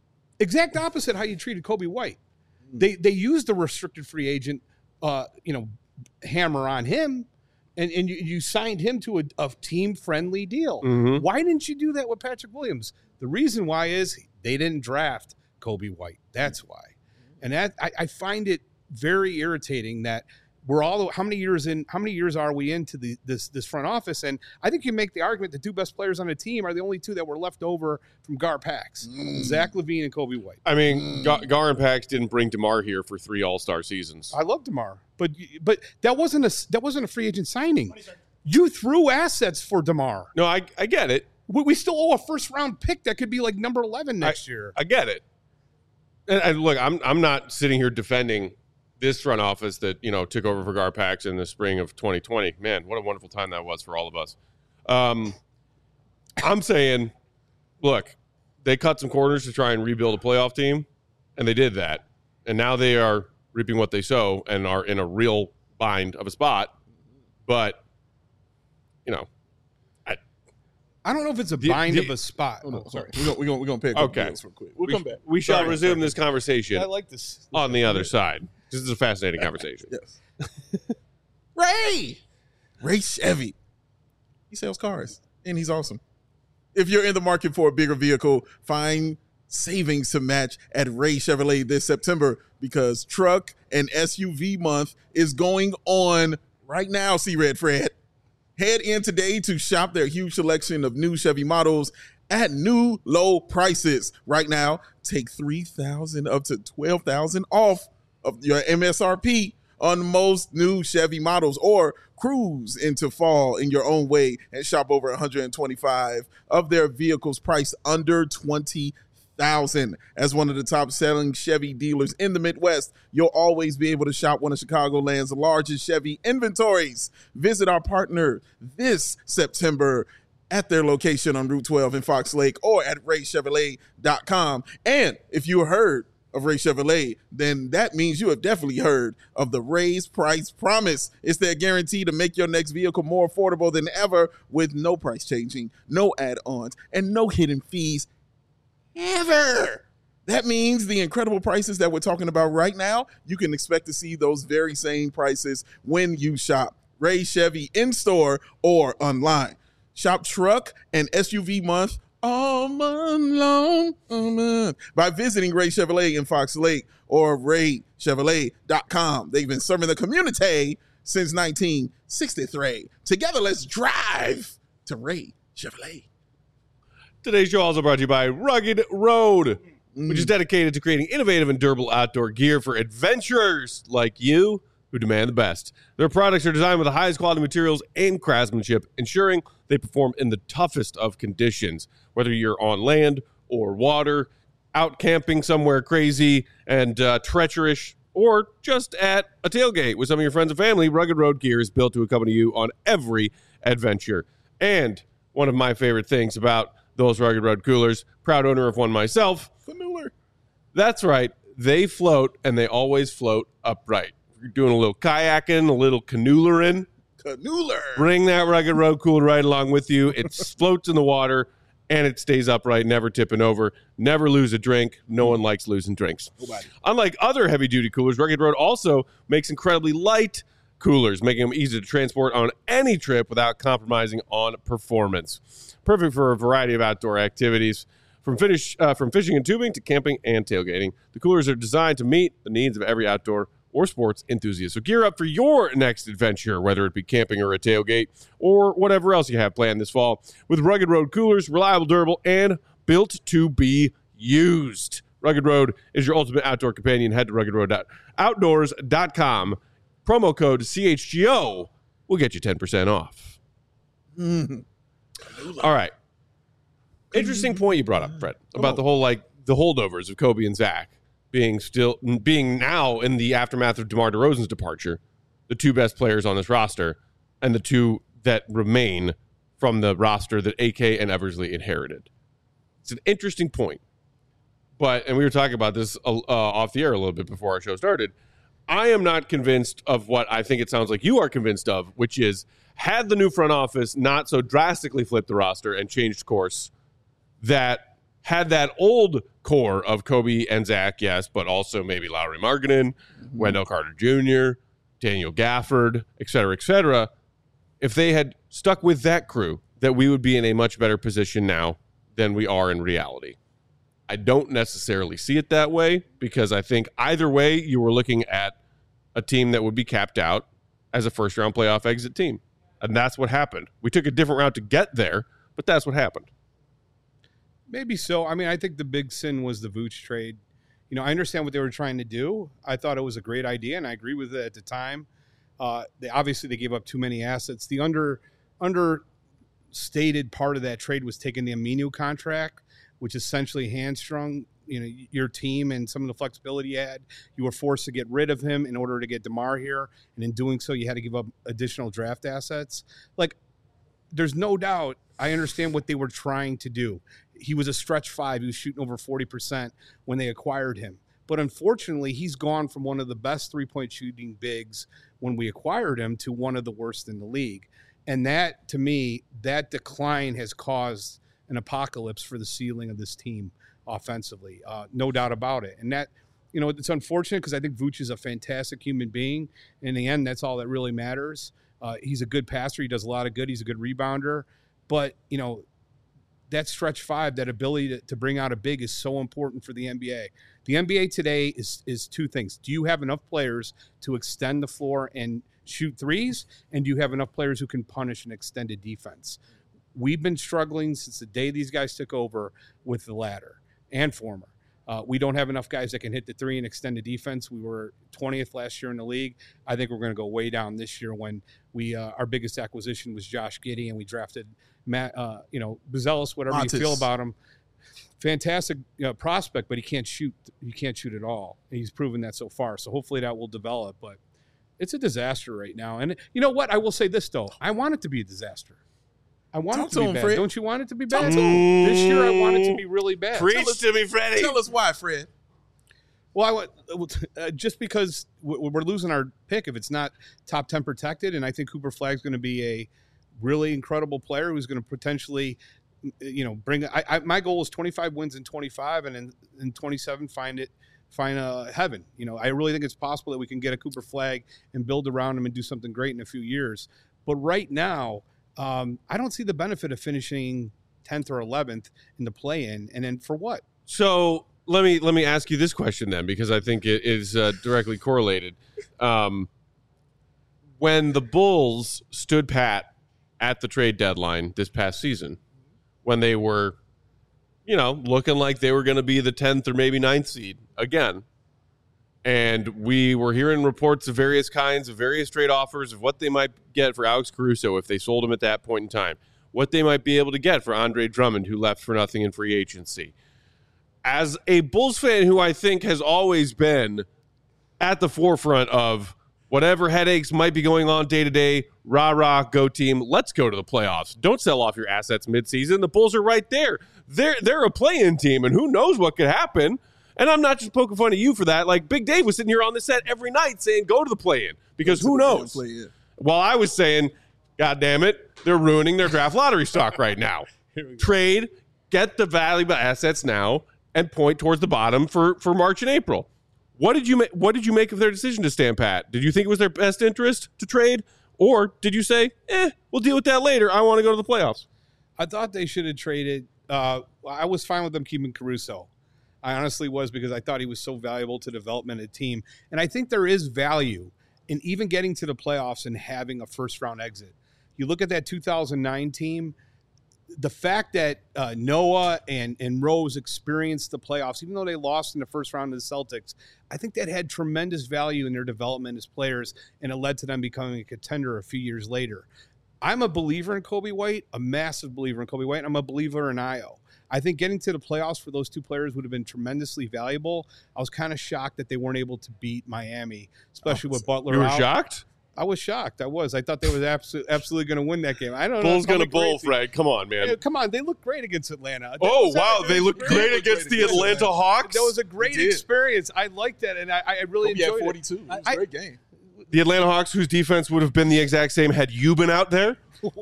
Exact opposite how you treated Kobe White. They they used the restricted free agent, uh, you know, hammer on him, and, and you, you signed him to a, a team friendly deal. Mhm. Why didn't you do that with Patrick Williams? The reason why is they didn't draft Kobe White. That's why, and that I, I find it very irritating that we're all how many years in how many years are we into the this this front office, and I think you make the argument the two best players on the team are the only two that were left over from Gar Pax, Zach LaVine and Kobe White. I mean, Gar, Gar and Pax didn't bring DeMar here for three All-Star seasons. I love DeMar, but but that wasn't a that wasn't a free agent signing. You threw assets for DeMar. No, I, I get it. We, we still owe a first round pick that could be like number eleven next year. I get it. And, and look, I'm I'm not sitting here defending this front office that, you know, took over for Gar Pax in the spring of twenty twenty. Man, what a wonderful time that was for all of us. Um, I'm saying, look, they cut some corners to try and rebuild a playoff team, and they did that. And now they are reaping what they sow and are in a real bind of a spot. But, you know, I, I don't know if it's a The- bind the- of a spot. Oh, no, Oh, sorry. We're going we're gonna, we're gonna pay a couple Okay. bills real quick. We'll we, come back. we shall Sorry, resume sorry. this conversation I like this. on the other side. This is a fascinating conversation. Yes. Ray! Ray Chevy. He sells cars, and he's awesome. If you're in the market for a bigger vehicle, find savings to match at Ray Chevrolet this September because truck and S U V month is going on right now, see Red Fred. Head in today to shop their huge selection of new Chevy models at new low prices. Right now, take three thousand dollars up to twelve thousand dollars off of your M S R P on most new Chevy models, or cruise into fall in your own way and shop over one hundred twenty-five of their vehicles priced under twenty thousand. As one of the top selling Chevy dealers in the Midwest, you'll always be able to shop one of Chicagoland's largest Chevy inventories. Visit our partner this September at their location on Route twelve in Fox Lake or at ray chevrolet dot com. And if you heard of Ray Chevrolet, then that means you have definitely heard of the Ray's Price Promise. It's their guarantee to make your next vehicle more affordable than ever with no price changing, no add-ons, and no hidden fees ever. That means the incredible prices that we're talking about right now, you can expect to see those very same prices when you shop Ray Chevy in-store or online. Shop truck and S U V month all month long, all month, by visiting Ray Chevrolet in Fox Lake or ray chevrolet dot com. They've been serving the community since nineteen sixty-three. Together, let's drive to Ray Chevrolet. Today's show also brought to you by Rugged Road, which is dedicated to creating innovative and durable outdoor gear for adventurers like you who demand the best. Their products are designed with the highest quality materials and craftsmanship, ensuring they perform in the toughest of conditions, whether you're on land or water, out camping somewhere crazy and uh, treacherous, or just at a tailgate with some of your friends and family. Rugged Road gear is built to accompany you on every adventure. And one of my favorite things about those Rugged Road coolers, proud owner of one myself, Familiar. that's right, they float, and they always float upright. If you're doing a little kayaking, a little canoolaring, Canooler. bring that Rugged Road cooler right along with you. It floats in the water, and it stays upright, never tipping over. Never lose a drink. No one likes losing drinks. Nobody. Unlike other heavy-duty coolers, Rugged Road also makes incredibly light coolers, making them easy to transport on any trip without compromising on performance. Perfect for a variety of outdoor activities, from, finish, uh, from fishing and tubing to camping and tailgating. The coolers are designed to meet the needs of every outdoor or sports enthusiast. So gear up for your next adventure, whether it be camping or a tailgate or whatever else you have planned this fall. With Rugged Road coolers, reliable, durable, and built to be used. Rugged Road is your ultimate outdoor companion. Head to rugged road outdoors dot com. Promo code C H G O will get you ten percent off. Mm. All right. Interesting point you brought up, Fred, about the whole, like, the holdovers of Kobe and Zach being still being now in the aftermath of DeMar DeRozan's departure, the two best players on this roster, and the two that remain from the roster that A K and Eversley inherited. It's an interesting point. But, and we were talking about this uh, off the air a little bit before our show started, I am not convinced of what I think it sounds like you are convinced of, which is, had the new front office not so drastically flipped the roster and changed course, that had that old core of Kobe and Zach, yes, but also maybe Lowry Markkanen, mm-hmm. Wendell Carter Junior, Daniel Gafford, et cetera, et cetera, if they had stuck with that crew, that we would be in a much better position now than we are in reality. I don't necessarily see it that way, because I think either way you were looking at a team that would be capped out as a first-round playoff exit team. And that's what happened. We took a different route to get there, but that's what happened. Maybe so. I mean, I think the big sin was the Vooch trade. You know, I understand what they were trying to do. I thought it was a great idea, and I agree with it at the time. Uh, they obviously they gave up too many assets. The under understated part of that trade was taking the Aminu contract, which essentially hamstrung, you know, your team and some of the flexibility you had. You were forced to get rid of him in order to get DeMar here, and in doing so, you had to give up additional draft assets. Like, there's no doubt I understand what they were trying to do. he was a stretch five. He was shooting over forty percent when they acquired him. But unfortunately, he's gone from one of the best three-point shooting bigs when we acquired him to one of the worst in the league. And that, to me, that decline has caused an apocalypse for the ceiling of this team offensively. Uh, no doubt about it. And that, you know, it's unfortunate because I think Vooch is a fantastic human being. In the end, that's all that really matters. Uh, he's a good passer. He does a lot of good. He's a good rebounder. But, you know, that stretch five, that ability to, to bring out a big is so important for the N B A. The N B A today is is two things. Do you have enough players to extend the floor and shoot threes? And do you have enough players who can punish an extended defense? We've been struggling since the day these guys took over with the latter and former. Uh, we don't have enough guys that can hit the three and extend the defense. We were twentieth last year in the league. I think we're going to go way down this year when we uh, our biggest acquisition was Josh Giddey, and we drafted Matt, uh, you know, Buzelis, whatever Montes. you feel about him. Fantastic you know, prospect, but he can't shoot. He can't shoot at all. And he's proven that so far. So hopefully that will develop. But it's a disaster right now. And you know what? I will say this though. I want it to be a disaster. I want Talk it to, to be him, bad. Fred. Don't you want it to be Talk bad? to him. This year I want it to be really bad. Preach to me, Freddie. Tell us why, Fred. Well, I want, uh, just because we're losing our pick if it's not top ten protected, and I think Cooper Flagg's going to be a really incredible player who's going to potentially, you know, bring. I, I, my goal is twenty-five wins in twenty-five, and in, in twenty-seven find it, find a heaven. You know, I really think it's possible that we can get a Cooper Flagg and build around him and do something great in a few years. But right now, um, I don't see the benefit of finishing tenth or eleventh in the play-in, and then for what? So let me let me ask you this question then, because I think it is uh, directly correlated. Um, when the Bulls stood pat at the trade deadline this past season, when they were, you know, looking like they were going to be the tenth or maybe ninth seed again, and we were hearing reports of various kinds of various trade offers of what they might get for Alex Caruso if they sold him at that point in time, what they might be able to get for Andre Drummond, who left for nothing in free agency. As a Bulls fan who I think has always been at the forefront of whatever headaches might be going on day to day, rah, rah, go team, let's go to the playoffs. Don't sell off your assets midseason. The Bulls are right there. They're, they're a play-in team, and who knows what could happen. And I'm not just poking fun at you for that. Like, Big Dave was sitting here on the set every night saying, go to the play-in, because who knows? While I was saying, God damn it, they're ruining their draft lottery stock right now. Trade, get the valuable assets now, and point towards the bottom for, for March and April. What did you ma- What did you make of their decision to stand pat? Did you think it was their best interest to trade, or did you say, "Eh, we'll deal with that later. I want to go to the playoffs"? I thought they should have traded. Uh, I was fine with them keeping Caruso. I honestly was, because I thought he was so valuable to development of the team, and I think there is value in even getting to the playoffs and having a first round exit. You look at that two thousand nine team. The fact that uh, Noah and, and Rose experienced the playoffs, even though they lost in the first round to the Celtics, I think that had tremendous value in their development as players, and it led to them becoming a contender a few years later. I'm a believer in Kobe White, a massive believer in Kobe White, and I'm a believer in Ayo. I think getting to the playoffs for those two players would have been tremendously valuable. I was kind of shocked that they weren't able to beat Miami, especially oh, with Butler out. You were out. shocked? I was shocked. I was. I thought they were absolutely, absolutely going to win that game. I don't Bulls know. Bulls going to bowl, Fred. Come on, man. Yeah, come on. They looked great against Atlanta. That oh, was, wow. that They looked great, great against great the against Atlanta Atlanta. Hawks? That was a great experience. I liked that, and I, I really Kobe enjoyed had forty-two. it. It was I, a great game. The Atlanta Hawks, whose defense would have been the exact same had you been out there? Damn.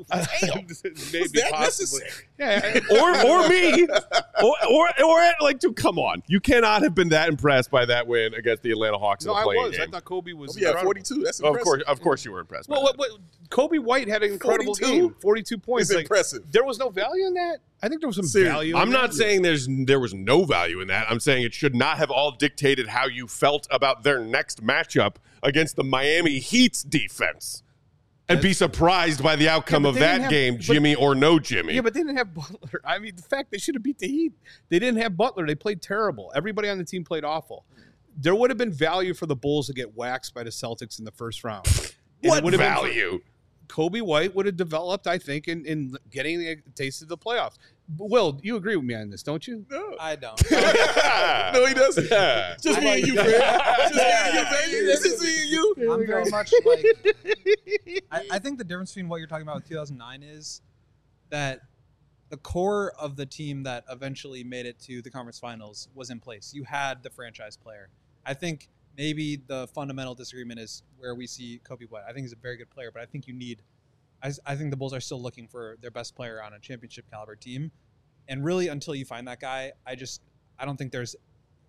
Maybe that possibly. Necessary? Yeah. or or me. Or, or, or like, dude, come on. You cannot have been that impressed by that win against the Atlanta Hawks no, in the I playing was. game. I thought Kobe was Kobe had forty-two. That's impressive. Of course, of course you were impressed by well, that. What, what, Kobe White had an incredible forty-two? game. forty-two points. It's like, impressive. There was no value in that? I think there was some Seriously. value I'm in not that. saying there's there was no value in that. I'm saying it should not have all dictated how you felt about their next matchup against the Miami Heat's defense. And be surprised by the outcome Yeah, of they that didn't have- game, but- Jimmy or no Jimmy. Yeah, but they didn't have Butler. I mean, the fact they should have beat the Heat. They didn't have Butler. They played terrible. Everybody on the team played awful. There would have been value for the Bulls to get waxed by the Celtics in the first round. And what it would have been- value? Kobe White would have developed, I think, in, in getting a taste of the playoffs. Will, you agree with me on this, don't you? No. I don't. No, he doesn't. Yeah. Just me and you, Fred. Just me and you, baby. Just me and you. I'm very much like. I, I think the difference between what you're talking about with two thousand nine is that the core of the team that eventually made it to the conference finals was in place. You had the franchise player. I think maybe the fundamental disagreement is where we see Kobe White. I think he's a very good player, but I think you need I, I think the Bulls are still looking for their best player on a championship caliber team. And really, until you find that guy, I just I don't think there's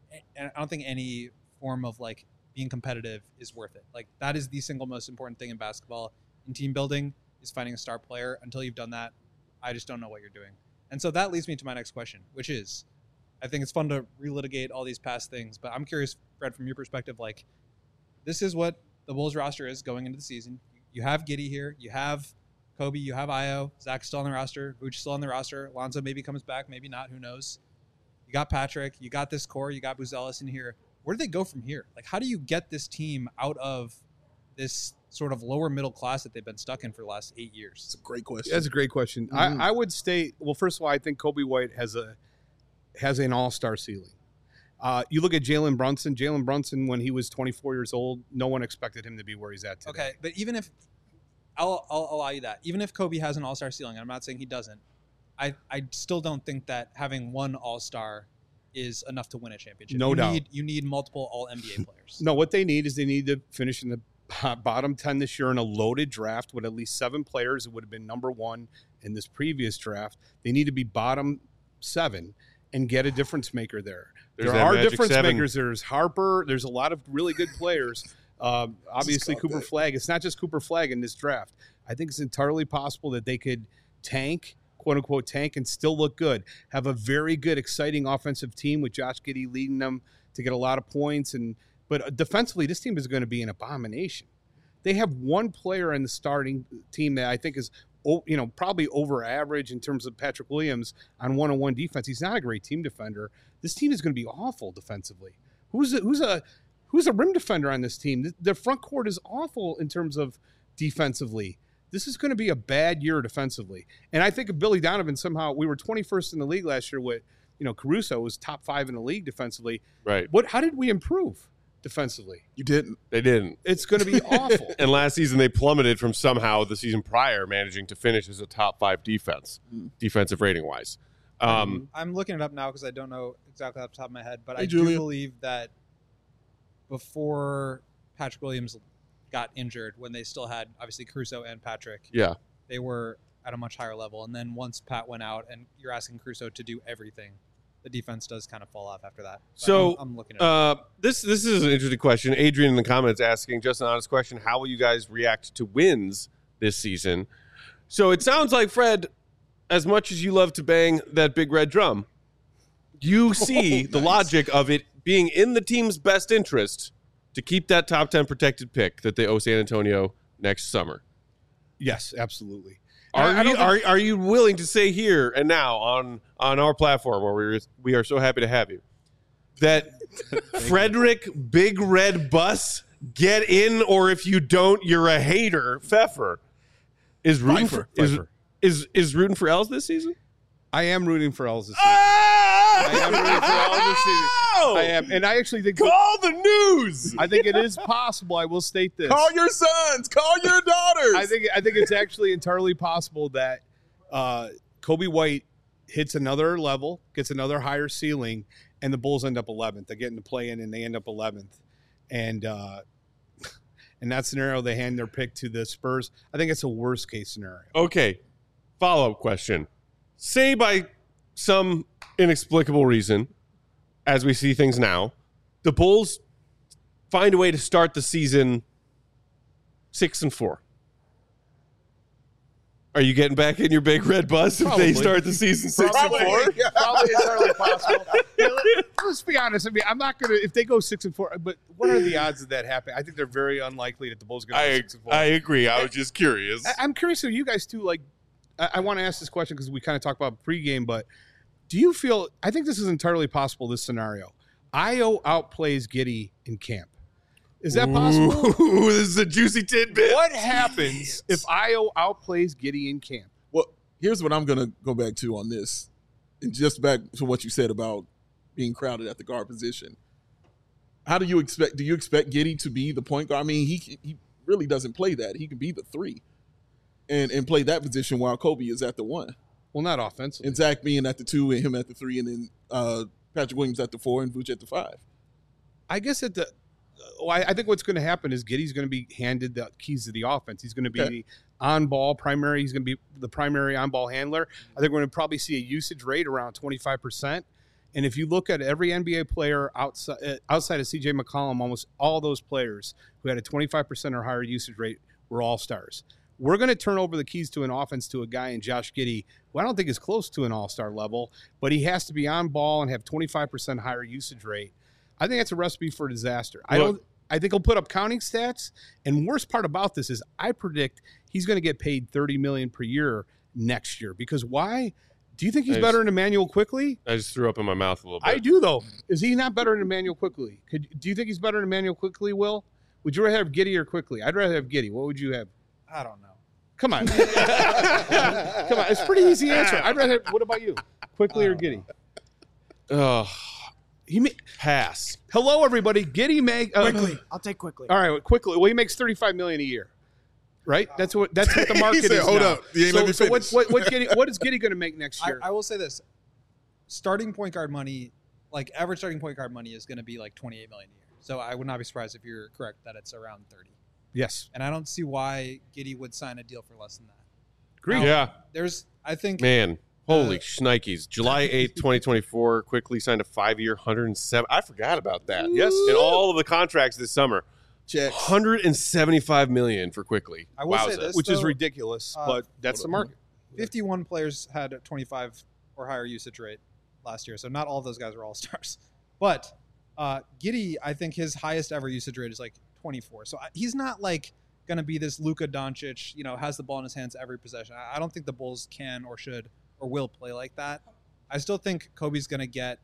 I don't think any form of like being competitive is worth it. Like that is the single most important thing in basketball in team building is finding a star player. Until you've done that, I just don't know what you're doing. And so that leads me to my next question, which is, I think it's fun to relitigate all these past things, but I'm curious, Fred, from your perspective, like this is what the Bulls roster is going into the season. You have Giddey here, you have Kobe, you have Io, Zach's still on the roster, Vooch still on the roster, Lonzo maybe comes back, maybe not, who knows. You got Patrick, you got this core, you got Buzelis in here. Where do they go from here? Like, how do you get this team out of this sort of lower middle class that they've been stuck in for the last eight years? It's a great question. That's a great question. Mm-hmm. I, I would state, well, first of all, I think Kobe White has a has an all-star ceiling. Uh, you look at Jalen Brunson. Jalen Brunson, when he was twenty-four years old, no one expected him to be where he's at today. Okay, but even if I'll, I'll allow you that, even if Kobe has an all-star ceiling, and I'm not saying he doesn't, I I still don't think that having one all-star is enough to win a championship. No you doubt. Need, you need multiple all N B A players. No, what they need is they need to finish in the bottom ten this year in a loaded draft with at least seven players that would have been number one in this previous draft. They need to be bottom seven and get a difference maker there. There's there that are magic difference seven. makers. There's Harper. There's a lot of really good players. Um, obviously, Just Cooper that. Flagg. It's not just Cooper Flagg in this draft. I think it's entirely possible that they could tank, quote unquote, tank and still look good. Have a very good, exciting offensive team with Josh Giddey leading them to get a lot of points. And but defensively, this team is going to be an abomination. They have one player in the starting team that I think is, you know, probably over average in terms of Patrick Williams on one-on-one defense. He's not a great team defender. This team is going to be awful defensively. Who's a, who's a who's a rim defender on this team? Their front court is awful in terms of defensively. This is going to be a bad year defensively. And I think of Billy Donovan somehow, we were twenty-first in the league last year with, you know, Caruso was top five in the league defensively. Right. What? How did we improve defensively? You didn't. They didn't. It's going to be awful. And last season they plummeted from somehow the season prior managing to finish as a top five defense, Mm. defensive rating wise. Um, I'm looking it up now because I don't know exactly off the top of my head, but Hey, I Julia. do believe that before Patrick Williams got injured, when they still had obviously Caruso and Patrick, yeah. they were at a much higher level. And then once Pat went out and you're asking Caruso to do everything, the defense does kind of fall off after that. But So I'm, I'm looking at it. uh, this this is an interesting question. Adrian in the comments asking just an honest question: how will you guys react to wins this season? So it sounds like, Fred, as much as you love to bang that big red drum, you see the nice. logic of it being in the team's best interest to keep that top ten protected pick that they owe San Antonio next summer. Yes, absolutely. Are I- I you don't are, are you willing to say here and now on on our platform where we're we are so happy to have you that Frederick Big Red Bus get in, or if you don't, you're a hater. Pfeffer is rooting Pfeiffer. for is, Pfeiffer. is is rooting for L's this season. I am rooting for Els this season. I am rooting for Els this season. I am, and I actually think Call the news. I think it is possible. I will state this. Call your sons. Call your daughters. I think I think it's actually entirely possible that uh, Kobe White hits another level, gets another higher ceiling, and the Bulls end up eleventh. They get into play in, and they end up eleventh. And uh, in that scenario, they hand their pick to the Spurs. I think it's a worst case scenario. Okay, follow up question. Say by some inexplicable reason, as we see things now, the Bulls find a way to start the season six and four. Are you getting back in your big red bus if Probably. they start the season six Probably. and four? Yeah. Probably entirely possible. Yeah, let, let's be honest. I mean, I'm not gonna if they go six and four. But what are the odds of that happening? I think they're very unlikely that the Bulls are going to go I six and four. I agree. I was just curious. I, I'm curious of you guys too. Like, I, I want to ask this question because we kind of talked about pregame, but do you feel? I think this is entirely possible. This scenario, Io outplays Giddey in camp. Is that possible? Ooh, this is a juicy tidbit. What happens if Io outplays Giddey in camp? Well, here's what I'm going to go back to on this. And just back to what you said about being crowded at the guard position. How do you expect, do you expect Giddey to be the point guard? I mean, he he really doesn't play that. He can be the three and, and play that position while Kobe is at the one. Well, not offensively. And Zach being at the two and him at the three, and then uh, Patrick Williams at the four and Vooch at the five. I guess at the well, I, I think what's going to happen is Giddey's going to be handed the keys to the offense. He's going to be Okay. the on-ball primary. He's going to be the primary on-ball handler. I think we're going to probably see a usage rate around twenty-five percent. And if you look at every N B A player outside uh, outside of C J McCollum, almost all those players who had a twenty-five percent or higher usage rate were all-stars. We're going to turn over the keys to an offense to a guy in Josh Giddey, who I don't think is close to an all-star level, but he has to be on ball and have twenty-five percent higher usage rate. I think that's a recipe for disaster. I Look- don't. I think he'll put up counting stats. And worst part about this is I predict he's going to get paid thirty million dollars per year next year. Because why? Do you think he's I better just- than Emmanuel Quickly? I just threw up in my mouth a little bit. I do, though. Is he not better than Emmanuel Quickly? Could do you think he's better than Emmanuel Quickly, Will? Would you rather have Giddey or Quickly? I'd rather have Giddey. What would you have? I don't know. Come on. Come on. It's a pretty easy answer. I'd rather have, what about you? Quickly or Giddey? Ugh, He ma- pass. Hello, everybody. Giddey make uh, Quickly. I'll take quickly. All right, Quickly. Well, he makes thirty-five million dollars a year, right? That's what that's what the He market said, is "Hold now. up. You ain't so, let me so what, finish." what, what, Giddey, what is Giddey going to make next I, year? I will say this: starting point guard money, like average starting point guard money, is going to be like twenty-eight million a year. So I would not be surprised if you're correct that it's around thirty. yes. And I don't see why Giddey would sign a deal for less than that. Agreed. Now, Yeah, There's, I think, man. Holy Uh, shnikes. July eighth, twenty twenty-four, Quickly signed a five-year, one hundred seven. I forgot about that. Yes. In all of the contracts this summer. Checks. one hundred seventy-five million dollars for Quickly. I will say Wowza. this, Which is though, ridiculous, uh, but that's the market. fifty-one players had a twenty-five or higher usage rate last year, so not all of those guys were all stars. But uh, Giddey, I think his highest ever usage rate is like twenty-four. So I, he's not like going to be this Luka Doncic, you know, has the ball in his hands every possession. I, I don't think the Bulls can or should or will play like that. I still think Kobe's going to get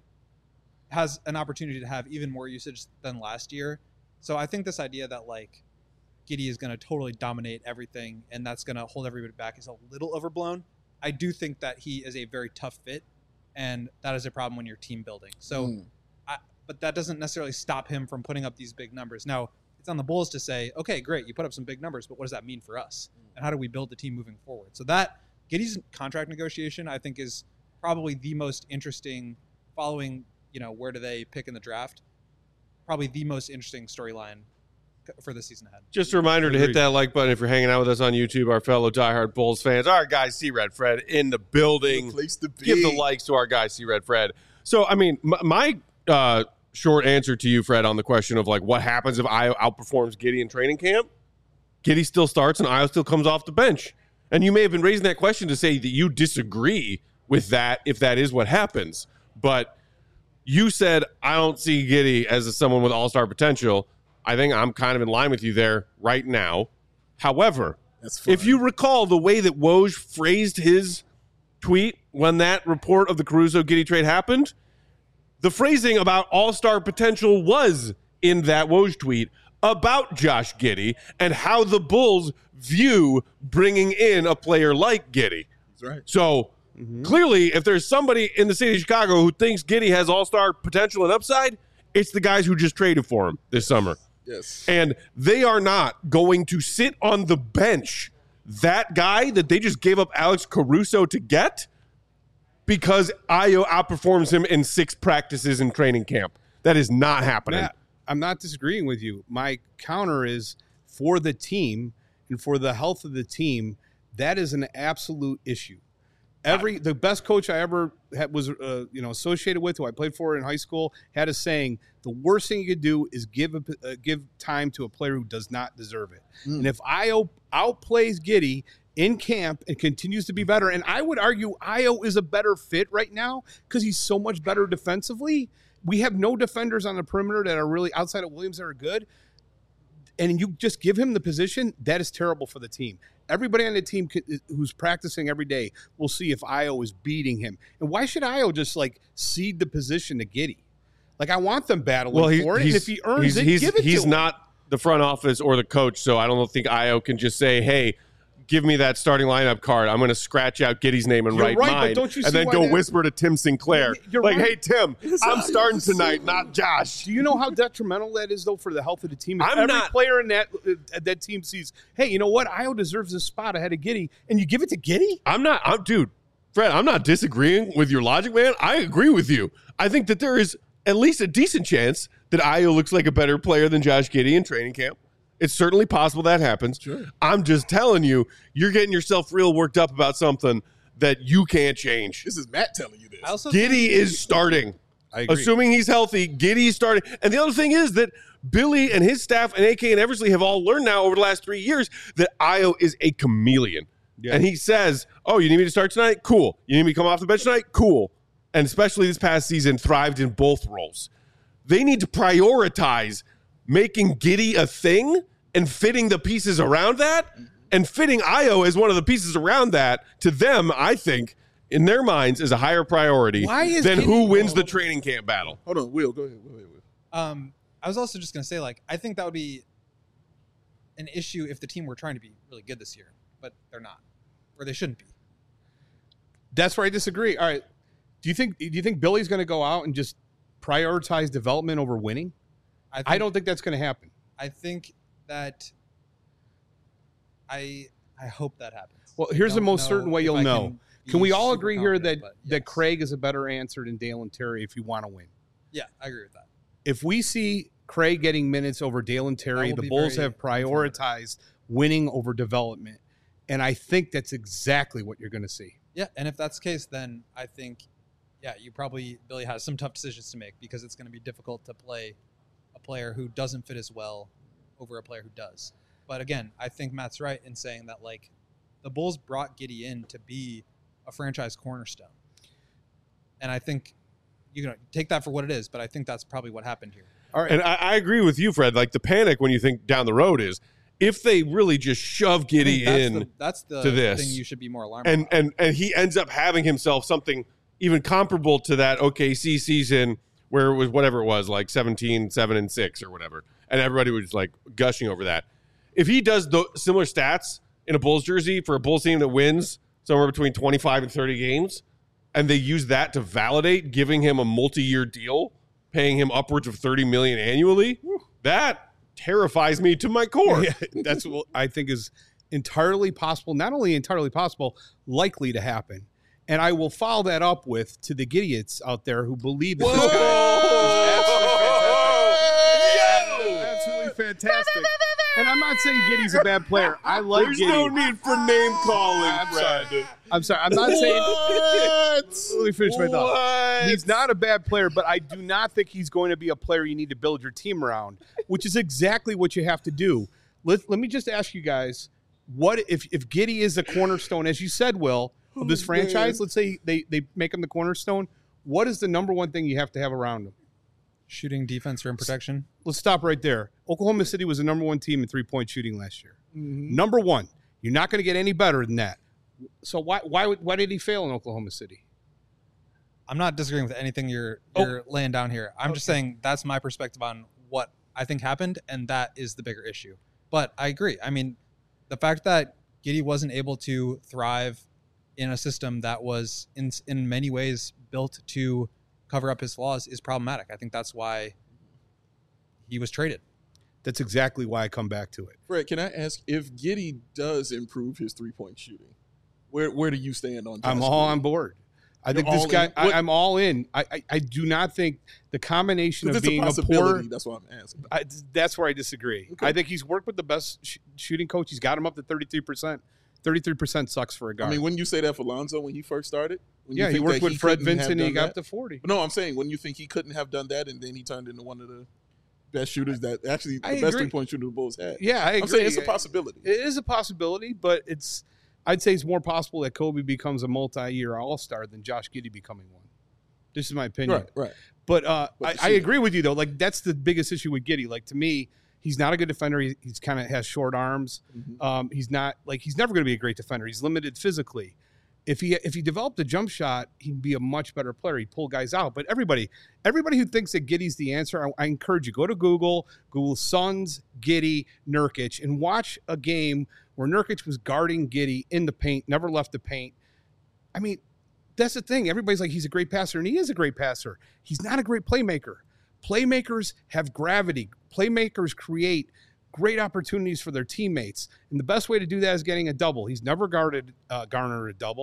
has an opportunity to have even more usage than last year. So I think this idea that like Giddey is going to totally dominate everything and that's going to hold everybody back is a little overblown. I do think that he is a very tough fit, and that is a problem when you're team building. So, Mm. I, but that doesn't necessarily stop him from putting up these big numbers. Now, it's on the Bulls to say, okay, great, you put up some big numbers, but what does that mean for us? And how do we build the team moving forward? So that Giddey's contract negotiation, I think, is probably the most interesting, following, you know, where do they pick in the draft? Probably the most interesting storyline for the season ahead. Just a reminder to hit Agreed. that like button if you're hanging out with us on YouTube, our fellow diehard Bulls fans. Our guy, C-Red Fred, in the building. Good place to be. Give the likes to our guy, C-Red Fred. So, I mean, my, my uh, short answer to you, Fred, on the question of, like, what happens if Io outperforms Giddey in training camp? Giddey still starts and Io still comes off the bench. And you may have been raising that question to say that you disagree with that if that is what happens. But you said, I don't see Giddey as a, someone with all-star potential. I think I'm kind of in line with you there right now. However, That's fine. if you recall the way that Woj phrased his tweet when that report of the Caruso-Giddey trade happened, the phrasing about all-star potential was in that Woj tweet about Josh Giddey and how the Bulls view bringing in a player like Giddey. That's right. So clearly, if there's somebody in the city of Chicago who thinks Giddey has all-star potential and upside, it's the guys who just traded for him this summer. Yes. And they are not going to sit on the bench that guy that they just gave up Alex Caruso to get because Io outperforms him in six practices in training camp. That is not happening. Matt, I'm not disagreeing with you. My counter is for the team and for the health of the team, that is an absolute issue. Every the best coach I ever had, was uh, you know associated with, who I played for in high school, had a saying: the worst thing you could do is give a, uh, give time to a player who does not deserve it. Mm. And if Io outplays Giddey in camp and continues to be better, and I would argue Io is a better fit right now because he's so much better defensively. We have no defenders on the perimeter that are really outside of Williams that are good. And you just give him the position, that is terrible for the team. Everybody on the team who's practicing every day will see if Io is beating him. And why should Io just like cede the position to Giddey? Like I want them battling Well, he, for it. And he's, if he earns he's, it, he's, give it he's to him. not the front office or the coach, so I don't think Io can just say, hey, give me that starting lineup card. I'm going to scratch out Giddey's name and You're write right, but mine, don't you and see then why go that- whisper to Tim Sinclair. You're like, right. hey, Tim, I'm starting tonight, not Josh. Do you know how detrimental that is, though, for the health of the team? If I'm every not- player in that uh, that team sees, hey, you know what? Io deserves this spot ahead of Giddey, and you give it to Giddey? I'm not, I'm, dude, Fred, I'm not disagreeing with your logic, man. I agree with you. I think that there is at least a decent chance that Ayo looks like a better player than Josh Giddey in training camp. It's certainly possible that happens. Sure. I'm just telling you, you're getting yourself real worked up about something that you can't change. This is Matt telling you this. I also Giddey is starting. I agree. Assuming he's healthy, Giddey's starting. And the other thing is that Billy and his staff and A K and Eversley have all learned now over the last three years that Ayo is a chameleon. Yeah. And he says, oh, you need me to start tonight? Cool. You need me to come off the bench tonight? Cool. And especially this past season, thrived in both roles. They need to prioritize making Giddey a thing and fitting the pieces around that. And fitting Ayo as one of the pieces around that, to them, I think, in their minds, is a higher priority Why is than Giddey- who wins the training camp battle. Hold on, Will, go ahead. Go ahead, Will. Um, I was also just going to say, like, I think that would be an issue if the team were trying to be really good this year, but they're not, or they shouldn't be. That's where I disagree. All right. Do you think do you think Billy's going to go out and just prioritize development over winning? I, think, I don't think that's going to happen. I think that I I hope that happens. Well, here's I the don't most certain way if you'll I know. Can, Can we be all super agree here that, confident, but that yes. Craig is a better answer than Dalen Terry if you want to win? Yeah, I agree with that. If we see Craig getting minutes over Dalen Terry, will the be Bulls very have prioritized winning over development. And I think that's exactly what you're going to see. Yeah, and if that's the case, then I think, yeah, you probably, Billy has some tough decisions to make because it's going to be difficult to play a player who doesn't fit as well over a player who does. But again, I think Matt's right in saying that, like, the Bulls brought Giddey in to be a franchise cornerstone. And I think you can take that for what it is, but I think that's probably what happened here. All right. And I, I agree with you, Fred. Like, the panic when you think down the road is if they really just shove Giddey that's in the, that's the to this, thing you should be more alarmed and, about. and, and he ends up having himself something even comparable to that O K C season where it was whatever it was, like seventeen, seven, and six or whatever. And everybody was like gushing over that. If he does the similar stats in a Bulls jersey for a Bulls team that wins somewhere between twenty-five and thirty games, and they use that to validate giving him a multi-year deal, paying him upwards of thirty million dollars annually, that terrifies me to my core. Yeah, that's what I think is entirely possible. Not only entirely possible, likely to happen. And I will follow that up with, to the Giddeyits out there who believe that this guy is absolutely fantastic. Absolutely fantastic. And I'm not saying Giddey's a bad player. I like There's Giddey. no need for name calling, I'm Fred. sorry. I'm sorry. I'm not saying. What? Let me finish my thought. What? He's not a bad player, but I do not think he's going to be a player you need to build your team around, which is exactly what you have to do. Let, let me just ask you guys, what if, if Giddey is the cornerstone, as you said, Will, of this Oh, franchise? man. Let's say they, they make him the cornerstone. What is the number one thing you have to have around him? Shooting, defense, rim protection. Let's stop right there. Oklahoma City was the number one team in three-point shooting last year. Mm-hmm. Number one. You're not going to get any better than that. So why why would- why did he fail in Oklahoma City? I'm not disagreeing with anything you're Oh. you're laying down here. I'm just saying that's my perspective on what I think happened, and that is the bigger issue. But I agree. I mean, the fact that Giddey wasn't able to thrive in a system that was in in many ways built to cover up his flaws is problematic. I think that's why he was traded. That's exactly why I come back to it. Fred, can I ask if Giddey does improve his three-point shooting, where where do you stand on? I'm Josh all Giddey? on board. I You're think this all guy. in? I, What- I'm all in. I, I I do not think the combination If of it's being a a, poor. possibility, that's what I'm asking. I, that's where I disagree. Okay. I think he's worked with the best sh- shooting coach. He's got him up to thirty-three percent. thirty-three percent sucks for a guard. I mean, wouldn't you say that for Lonzo when he first started? When you yeah, he think worked that with Fred couldn't have Vincent and he done got that? up to forty. No, I'm saying when you think he couldn't have done that, and then he turned into one of the best shooters that actually the I best agree. three-point shooter the Bulls had. Yeah, I agree. I'm saying it's a possibility. It is a possibility, but it's. I'd say it's more possible that Kobe becomes a multi-year All-Star than Josh Giddey becoming one. This is my opinion. Right, right. But uh, But I, the I shooting. agree with you though. Like that's the biggest issue with Giddey. Like to me, he's not a good defender. He, he's kind of has short arms. Mhm. Um, he's not like he's never going to be a great defender. He's limited physically. If he if he developed a jump shot, he'd be a much better player. He'd pull guys out. But everybody, everybody who thinks that Giddey's the answer, I, I encourage you go to Google, Google Suns, Giddey, Nurkic, and watch a game where Nurkic was guarding Giddey in the paint, never left the paint. I mean, that's the thing. Everybody's like he's a great passer, and he is a great passer. He's not a great playmaker. Playmakers have gravity. Playmakers create great opportunities for their teammates. And the best way to do that is getting a double. He's never guarded uh, garnered a double.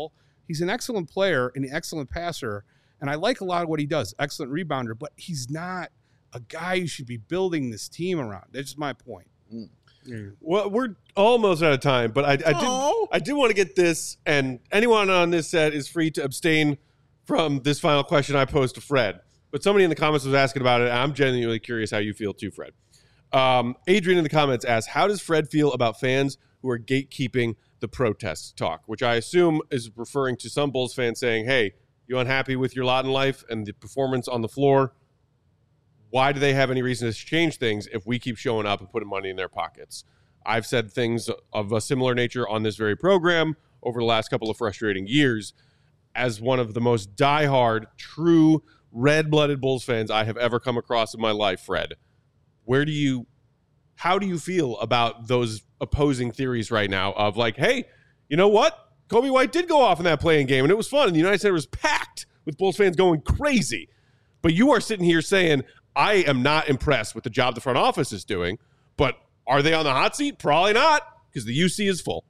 He's an excellent player and an excellent passer, and I like a lot of what he does. Excellent rebounder, but he's not a guy you should be building this team around. That's just my point. Mm. Yeah. Well, we're almost out of time, but I, I Oh. did I did want to get this, and anyone on this set is free to abstain from this final question I posed to Fred. But somebody in the comments was asking about it, and I'm genuinely curious how you feel too, Fred. Um, Adrian in the comments asked, how does Fred feel about fans who are gatekeeping the protest talk, which I assume is referring to some Bulls fans saying, hey, you unhappy with your lot in life and the performance on the floor? Why do they have any reason to change things if we keep showing up and putting money in their pockets? I've said things of a similar nature on this very program over the last couple of frustrating years. As one of the most diehard, true, red-blooded Bulls fans I have ever come across in my life, Fred, where do you, how do you feel about those opposing theories right now of like, hey, you know what? Kobe White did go off in that playing game, and it was fun, and the United Center was packed with Bulls fans going crazy. But you are sitting here saying, I am not impressed with the job the front office is doing, but are they on the hot seat? Probably not, because the U C is full.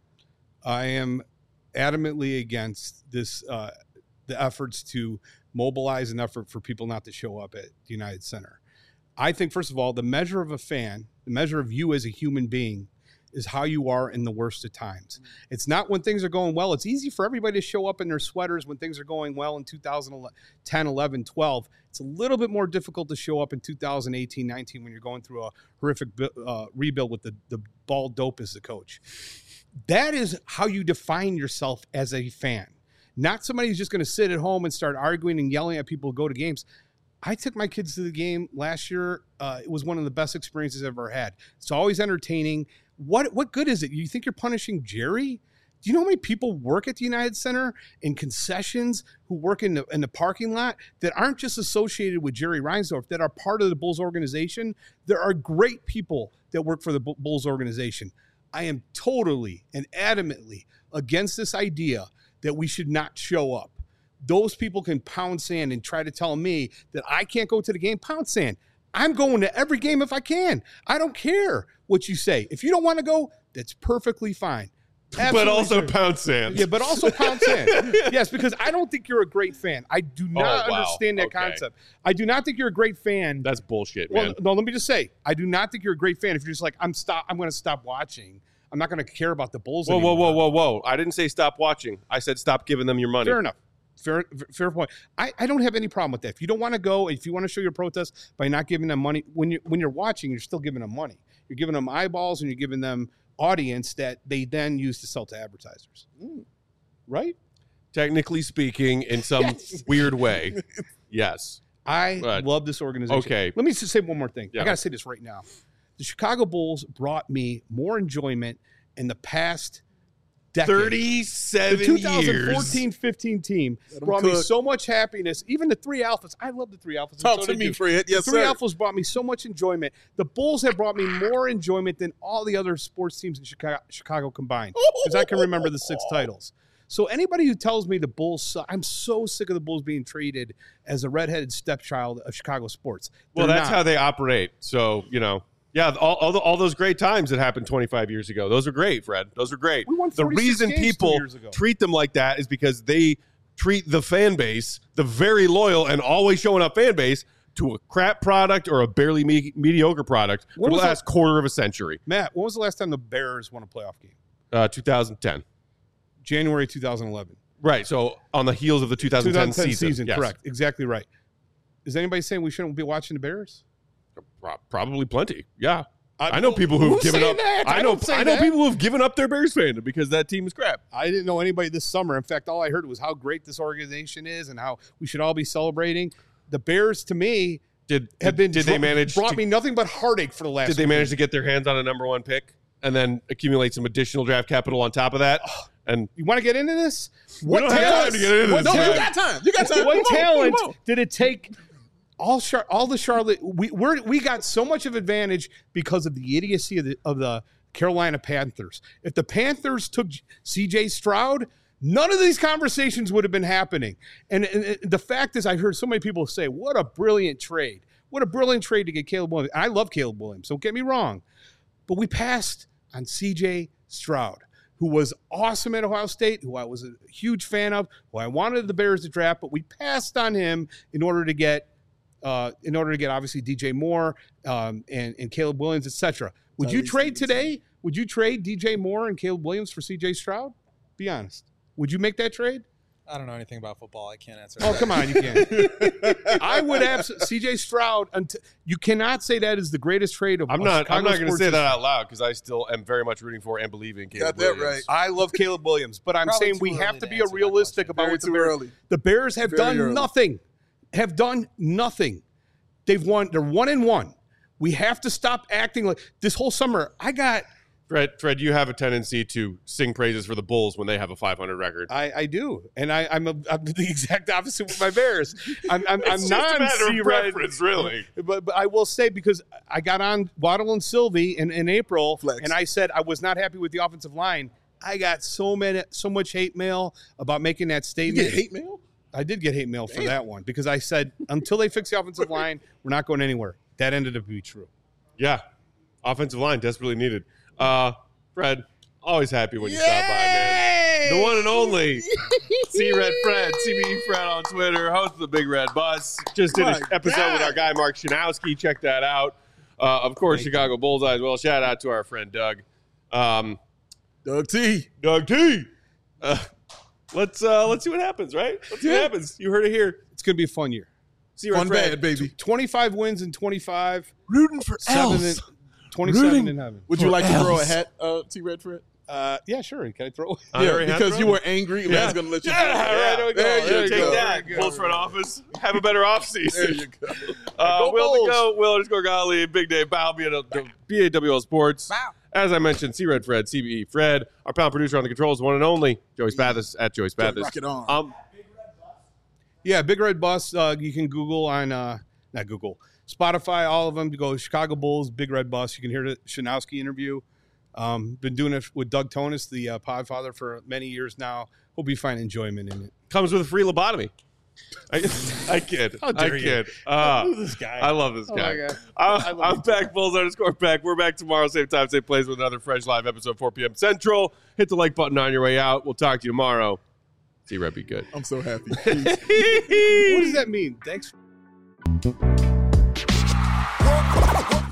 I am adamantly against this, uh, the efforts to mobilize an effort for people not to show up at the United Center. I think, first of all, the measure of a fan, the measure of you as a human being, is how you are in the worst of times. It's not when things are going well. It's easy for everybody to show up in their sweaters when things are going well in two thousand ten, eleven, twelve. It's a little bit more difficult to show up in two thousand eighteen, nineteen when you're going through a horrific uh, rebuild with the, the ball dope as the coach. That is how you define yourself as a fan. Not somebody who's just going to sit at home and start arguing and yelling at people who go to games. I took my kids to the game last year. Uh, it was one of the best experiences I've ever had. It's always entertaining. What what good is it? You think you're punishing Jerry? Do you know how many people work at the United Center in concessions, who work in the, in the parking lot, that aren't just associated with Jerry Reinsdorf, that are part of the Bulls organization? There are great people that work for the Bulls organization. I am totally and adamantly against this idea that we should not show up. Those people can pound sand and try to tell me that I can't go to the game. Pound sand. I'm going to every game if I can. I don't care what you say. If you don't want to go, that's perfectly fine. Absolutely but also true. pound sand. Yeah, but also pound sand. Yes, because I don't think you're a great fan. I do not Oh, wow. understand that Okay. concept. I do not think you're a great fan. That's bullshit, well, man. no, let me just say, I do not think you're a great fan if you're just like, I'm stop. I'm going to stop watching. I'm not going to care about the Bulls Whoa, whoa, anymore. whoa, whoa, whoa. I didn't say stop watching. I said stop giving them your money. Fair enough. Fair, fair point. I, I don't have any problem with that. If you don't want to go, if you want to show your protest by not giving them money, when you when you're watching, you're still giving them money. You're giving them eyeballs and you're giving them audience that they then use to sell to advertisers. Mm. Right? Technically speaking, in some Yes. weird way, yes. I Right. love this organization. Okay. Let me just say one more thing. Yeah. I got to say this right now. The Chicago Bulls brought me more enjoyment in the past decade. The thirty-seven twenty fourteen fifteen team Let 'em brought me cook. so much happiness. Even the three alphas. I love the three alphas. and Talk so to did me, you. Fred. Yes, the three sir. alphas brought me so much enjoyment. The Bulls have brought me more enjoyment than all the other sports teams in Chicago, Chicago combined. Because I can remember the six titles. So anybody who tells me the Bulls suck, I'm so sick of the Bulls being treated as a redheaded stepchild of Chicago sports. Well, They're that's not. how they operate. So, you know, yeah, all, all, the, all those great times that happened twenty-five years ago, those are great, Fred. Those are great. We won The forty-six reason games two people years ago. treat them like that is because they treat the fan base, the very loyal and always showing up fan base, to a crap product or a barely me- mediocre product When for the was last quarter of a century. Matt, when was the last time the Bears won a playoff game? Uh, two thousand ten. January two thousand eleven. Right. So on the heels of the two thousand ten, season. Yes. Correct. Exactly right. Is anybody saying we shouldn't be watching the Bears? Pro- Probably plenty. Yeah. I- I know people who've who's given saying up. that? I I know. don't say I know that. people who've given up their Bears fandom because that team is crap. I didn't know anybody this summer. In fact, all I heard was how great this organization is and how we should all be celebrating. The Bears, to me, Did have did, been did they dr- manage? brought to, me nothing but heartache for the last. Did they manage to get their hands on a number one pick and then accumulate some additional draft capital on top of that? And You want to get into this? We don't have time to get into what this, No, man. you got time. You got time. What Come on, talent come on. did it take? All Char- all the Charlotte, we we're, we got so much of advantage because of the idiocy of the of the Carolina Panthers. If the Panthers took C J Stroud, none of these conversations would have been happening. And, and, and the fact is, I heard so many people say, "What a brilliant trade! What a brilliant trade to get Caleb Williams." And I love Caleb Williams. Don't get me wrong, but we passed on C J Stroud. who was awesome at Ohio State, who I was a huge fan of, who I wanted the Bears to draft, but we passed on him in order to get, uh, in order to get obviously D J Moore um, and and Caleb Williams, et cetera. Would you trade today? Would you trade D J Moore and Caleb Williams for C J Stroud? Be honest. Would you make that trade? I don't know anything about football. I can't answer. Oh, that. come on, you can't. I would absolutely. C J Stroud. Until, you cannot say that is the greatest trade of. I'm of not. Chicago I'm not going to sports say history. that out loud because I still am very much rooting for and believe in Caleb Got that Williams. right. I love Caleb Williams, but I'm Probably saying too we early have to to be answer that realistic question. about Very what the too Bears. early. The Bears have Very done early. nothing. Have done nothing. They've won. They're one and one. We have to stop acting like this whole summer. I got. Fred, Fred, you have a tendency to sing praises for the Bulls when they have a five hundred record. I, I do, and I, I'm, a, I'm the exact opposite with my Bears. I'm, I'm, It's I'm just not a matter of C-Red, preference, really. But, but I will say, because I got on Waddle and Sylvie in, in April, Flex. and I said I was not happy with the offensive line. I got so many, so much hate mail about making that You statement. get hate mail? I did get hate mail for that one because I said until they fix the offensive line, we're not going anywhere. That ended up being true. Yeah, offensive line desperately needed. Uh, Fred, always happy when you stop by, man. The one and only C Red Fred, C B E Fred on Twitter, host of the Big Red Bus. Just did an My episode God. with our guy Mark Shanowski. Check that out. Uh, of course, Thank Chicago Bullseye as well. Shout out to our friend Doug. Um, Doug T. Doug T. Uh, let's uh, let's see what happens, right? Let's see what Yeah. happens. You heard it here. It's going to be a fun year. C Red Fun Fred. bad, baby. twenty-five wins in twenty-five. Rooting for Seven in, twenty-seven Rooting in heaven. Would you for like to throw a L's. hat, uh, T Red Fred? Uh, yeah, sure. Can I throw? Honorary yeah, hat because throw? you were angry. Yeah. Man's going to let you Yeah, do it. right, there we go. There you There you go. Take There that, you go. Bulls front office. Have a better offseason. There you go. Uh, Go Will Bulls. the Go, Will underscore Golly, Big Dave Bow, B A W L Sports. Wow. As I mentioned, C Red Fred, C B E Fred, our pound producer on the controls, one and only, Joey Spathis at Joey Spathis. Rock it on. Um, Yeah, Big Red Bus. Uh, you can Google on uh, not Google, Spotify, all of them. You go Chicago Bulls, Big Red Bus. You can hear the Shanowski interview. Um, been doing it with Doug Tonis, the uh, Podfather, for many years now. Hope you find enjoyment in it. comes with a free lobotomy. I, I kid. How I dare you. kid. Uh, this guy. I love this Oh guy. my God. I, love I'm you back, Bulls underscore back. We're back tomorrow, same time, same place with another fresh live episode, four p.m. Central. Hit the like button on your way out. We'll talk to you tomorrow. See Red be good. I'm so happy. What does that mean? Thanks. Work, work,